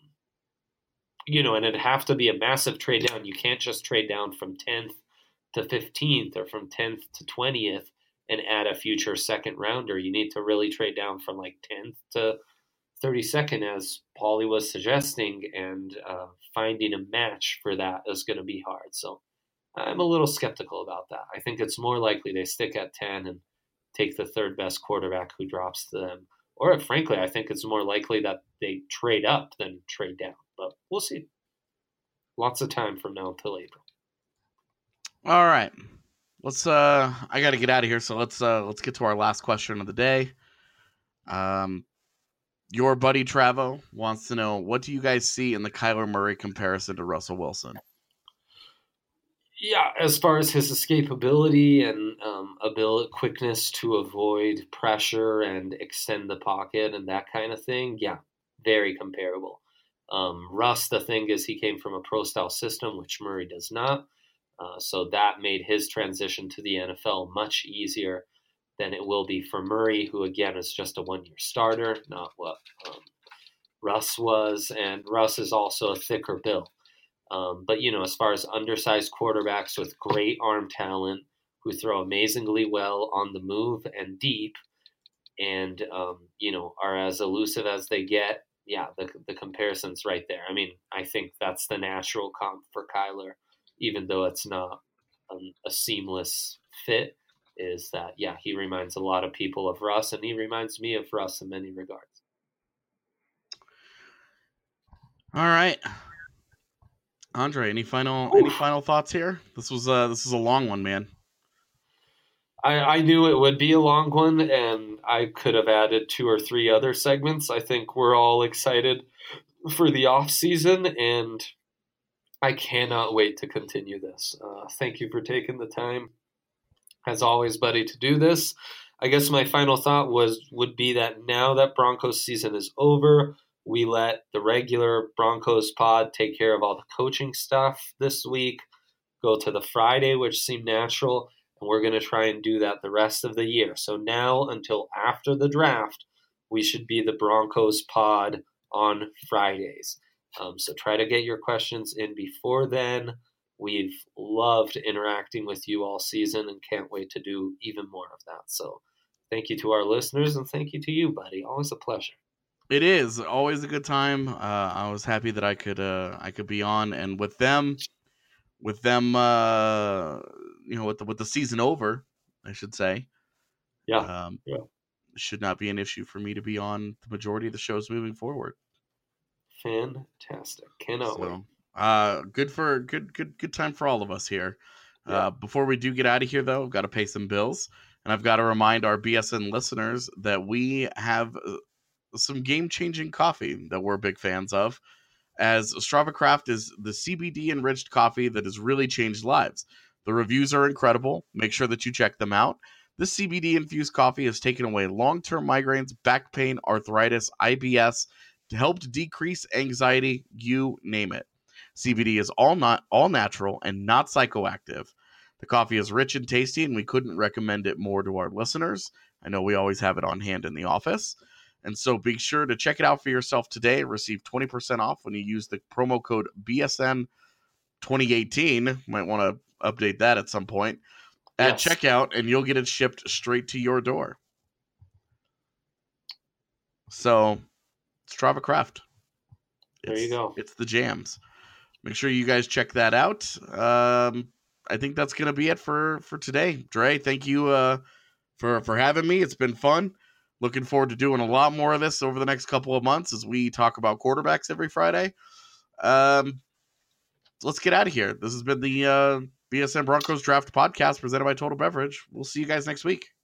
you know, and it'd have to be a massive trade down. You can't just trade down from tenth to fifteenth or from tenth to twentieth and add a future second rounder. You need to really trade down from like tenth to thirty-second, as Paulie was suggesting, and uh, finding a match for that is going to be hard. So I'm a little skeptical about that. I think it's more likely they stick at ten and take the third best quarterback who drops to them. Or frankly, I think it's more likely that they trade up than trade down. But we'll see. Lots of time from now until April. All right. Let's uh I got to get out of here, so let's uh let's get to our last question of the day. Um your buddy Travo wants to know, what do you guys see in the Kyler Murray comparison to Russell Wilson? Yeah, as far as his escapability and um, ability, quickness to avoid pressure and extend the pocket and that kind of thing, yeah, very comparable. Um, Russ, the thing is, he came from a pro-style system, which Murray does not. Uh, so that made his transition to the N F L much easier than it will be for Murray, who, again, is just a one-year starter, not what um, Russ was. And Russ is also a thicker build. Um, but, you know, as far as undersized quarterbacks with great arm talent who throw amazingly well on the move and deep and, um, you know, are as elusive as they get, yeah, the, the comparison's right there. I mean, I think that's the natural comp for Kyler, even though it's not um, a seamless fit, is that, yeah, he reminds a lot of people of Russ, and he reminds me of Russ in many regards. All right. Andre, any final Oof. any final thoughts here? This was uh this is a long one, man. I, I knew it would be a long one, and I could have added two or three other segments. I think we're all excited for the off season, and I cannot wait to continue this. Uh, thank you for taking the time, as always, buddy, to do this. I guess my final thought was would be that now that Broncos season is over, we let the regular Broncos pod take care of all the coaching stuff this week, go to the Friday, which seemed natural, and we're going to try and do that the rest of the year. So now until after the draft, we should be the Broncos pod on Fridays. Um, so try to get your questions in before then. We've loved interacting with you all season and can't wait to do even more of that. So thank you to our listeners, and thank you to you, buddy. Always a pleasure. It is always a good time. Uh, I was happy that I could uh, I could be on, and with them, with them, uh, you know, with the with the season over, I should say, yeah, um, yeah, should not be an issue for me to be on the majority of the shows moving forward. Fantastic! Cannot so, wait. Uh, good for good good good time for all of us here. Yeah. Uh, before we do get out of here, though, I've got to pay some bills, and I've got to remind our B S N listeners that we have some game-changing coffee that we're big fans of, as Strava Craft is the C B D-enriched coffee that has really changed lives. The reviews are incredible. Make sure that you check them out. This C B D-infused coffee has taken away long-term migraines, back pain, arthritis, I B S, to help to decrease anxiety, you name it. C B D is all not all natural and not psychoactive. The coffee is rich and tasty, and we couldn't recommend it more to our listeners. I know we always have it on hand in the office. And so be sure to check it out for yourself today and receive twenty percent off when you use the promo code B S N twenty eighteen. Might want to update that at some point at yes. checkout, and you'll get it shipped straight to your door. So, Strava Craft. There you go. It's the jams. Make sure you guys check that out. Um, I think that's going to be it for, for today. Dre, thank you uh, for, for having me. It's been fun. Looking forward to doing a lot more of this over the next couple of months as we talk about quarterbacks every Friday. Um, let's get out of here. This has been the uh, B S N Broncos Draft Podcast presented by Total Beverage. We'll see you guys next week.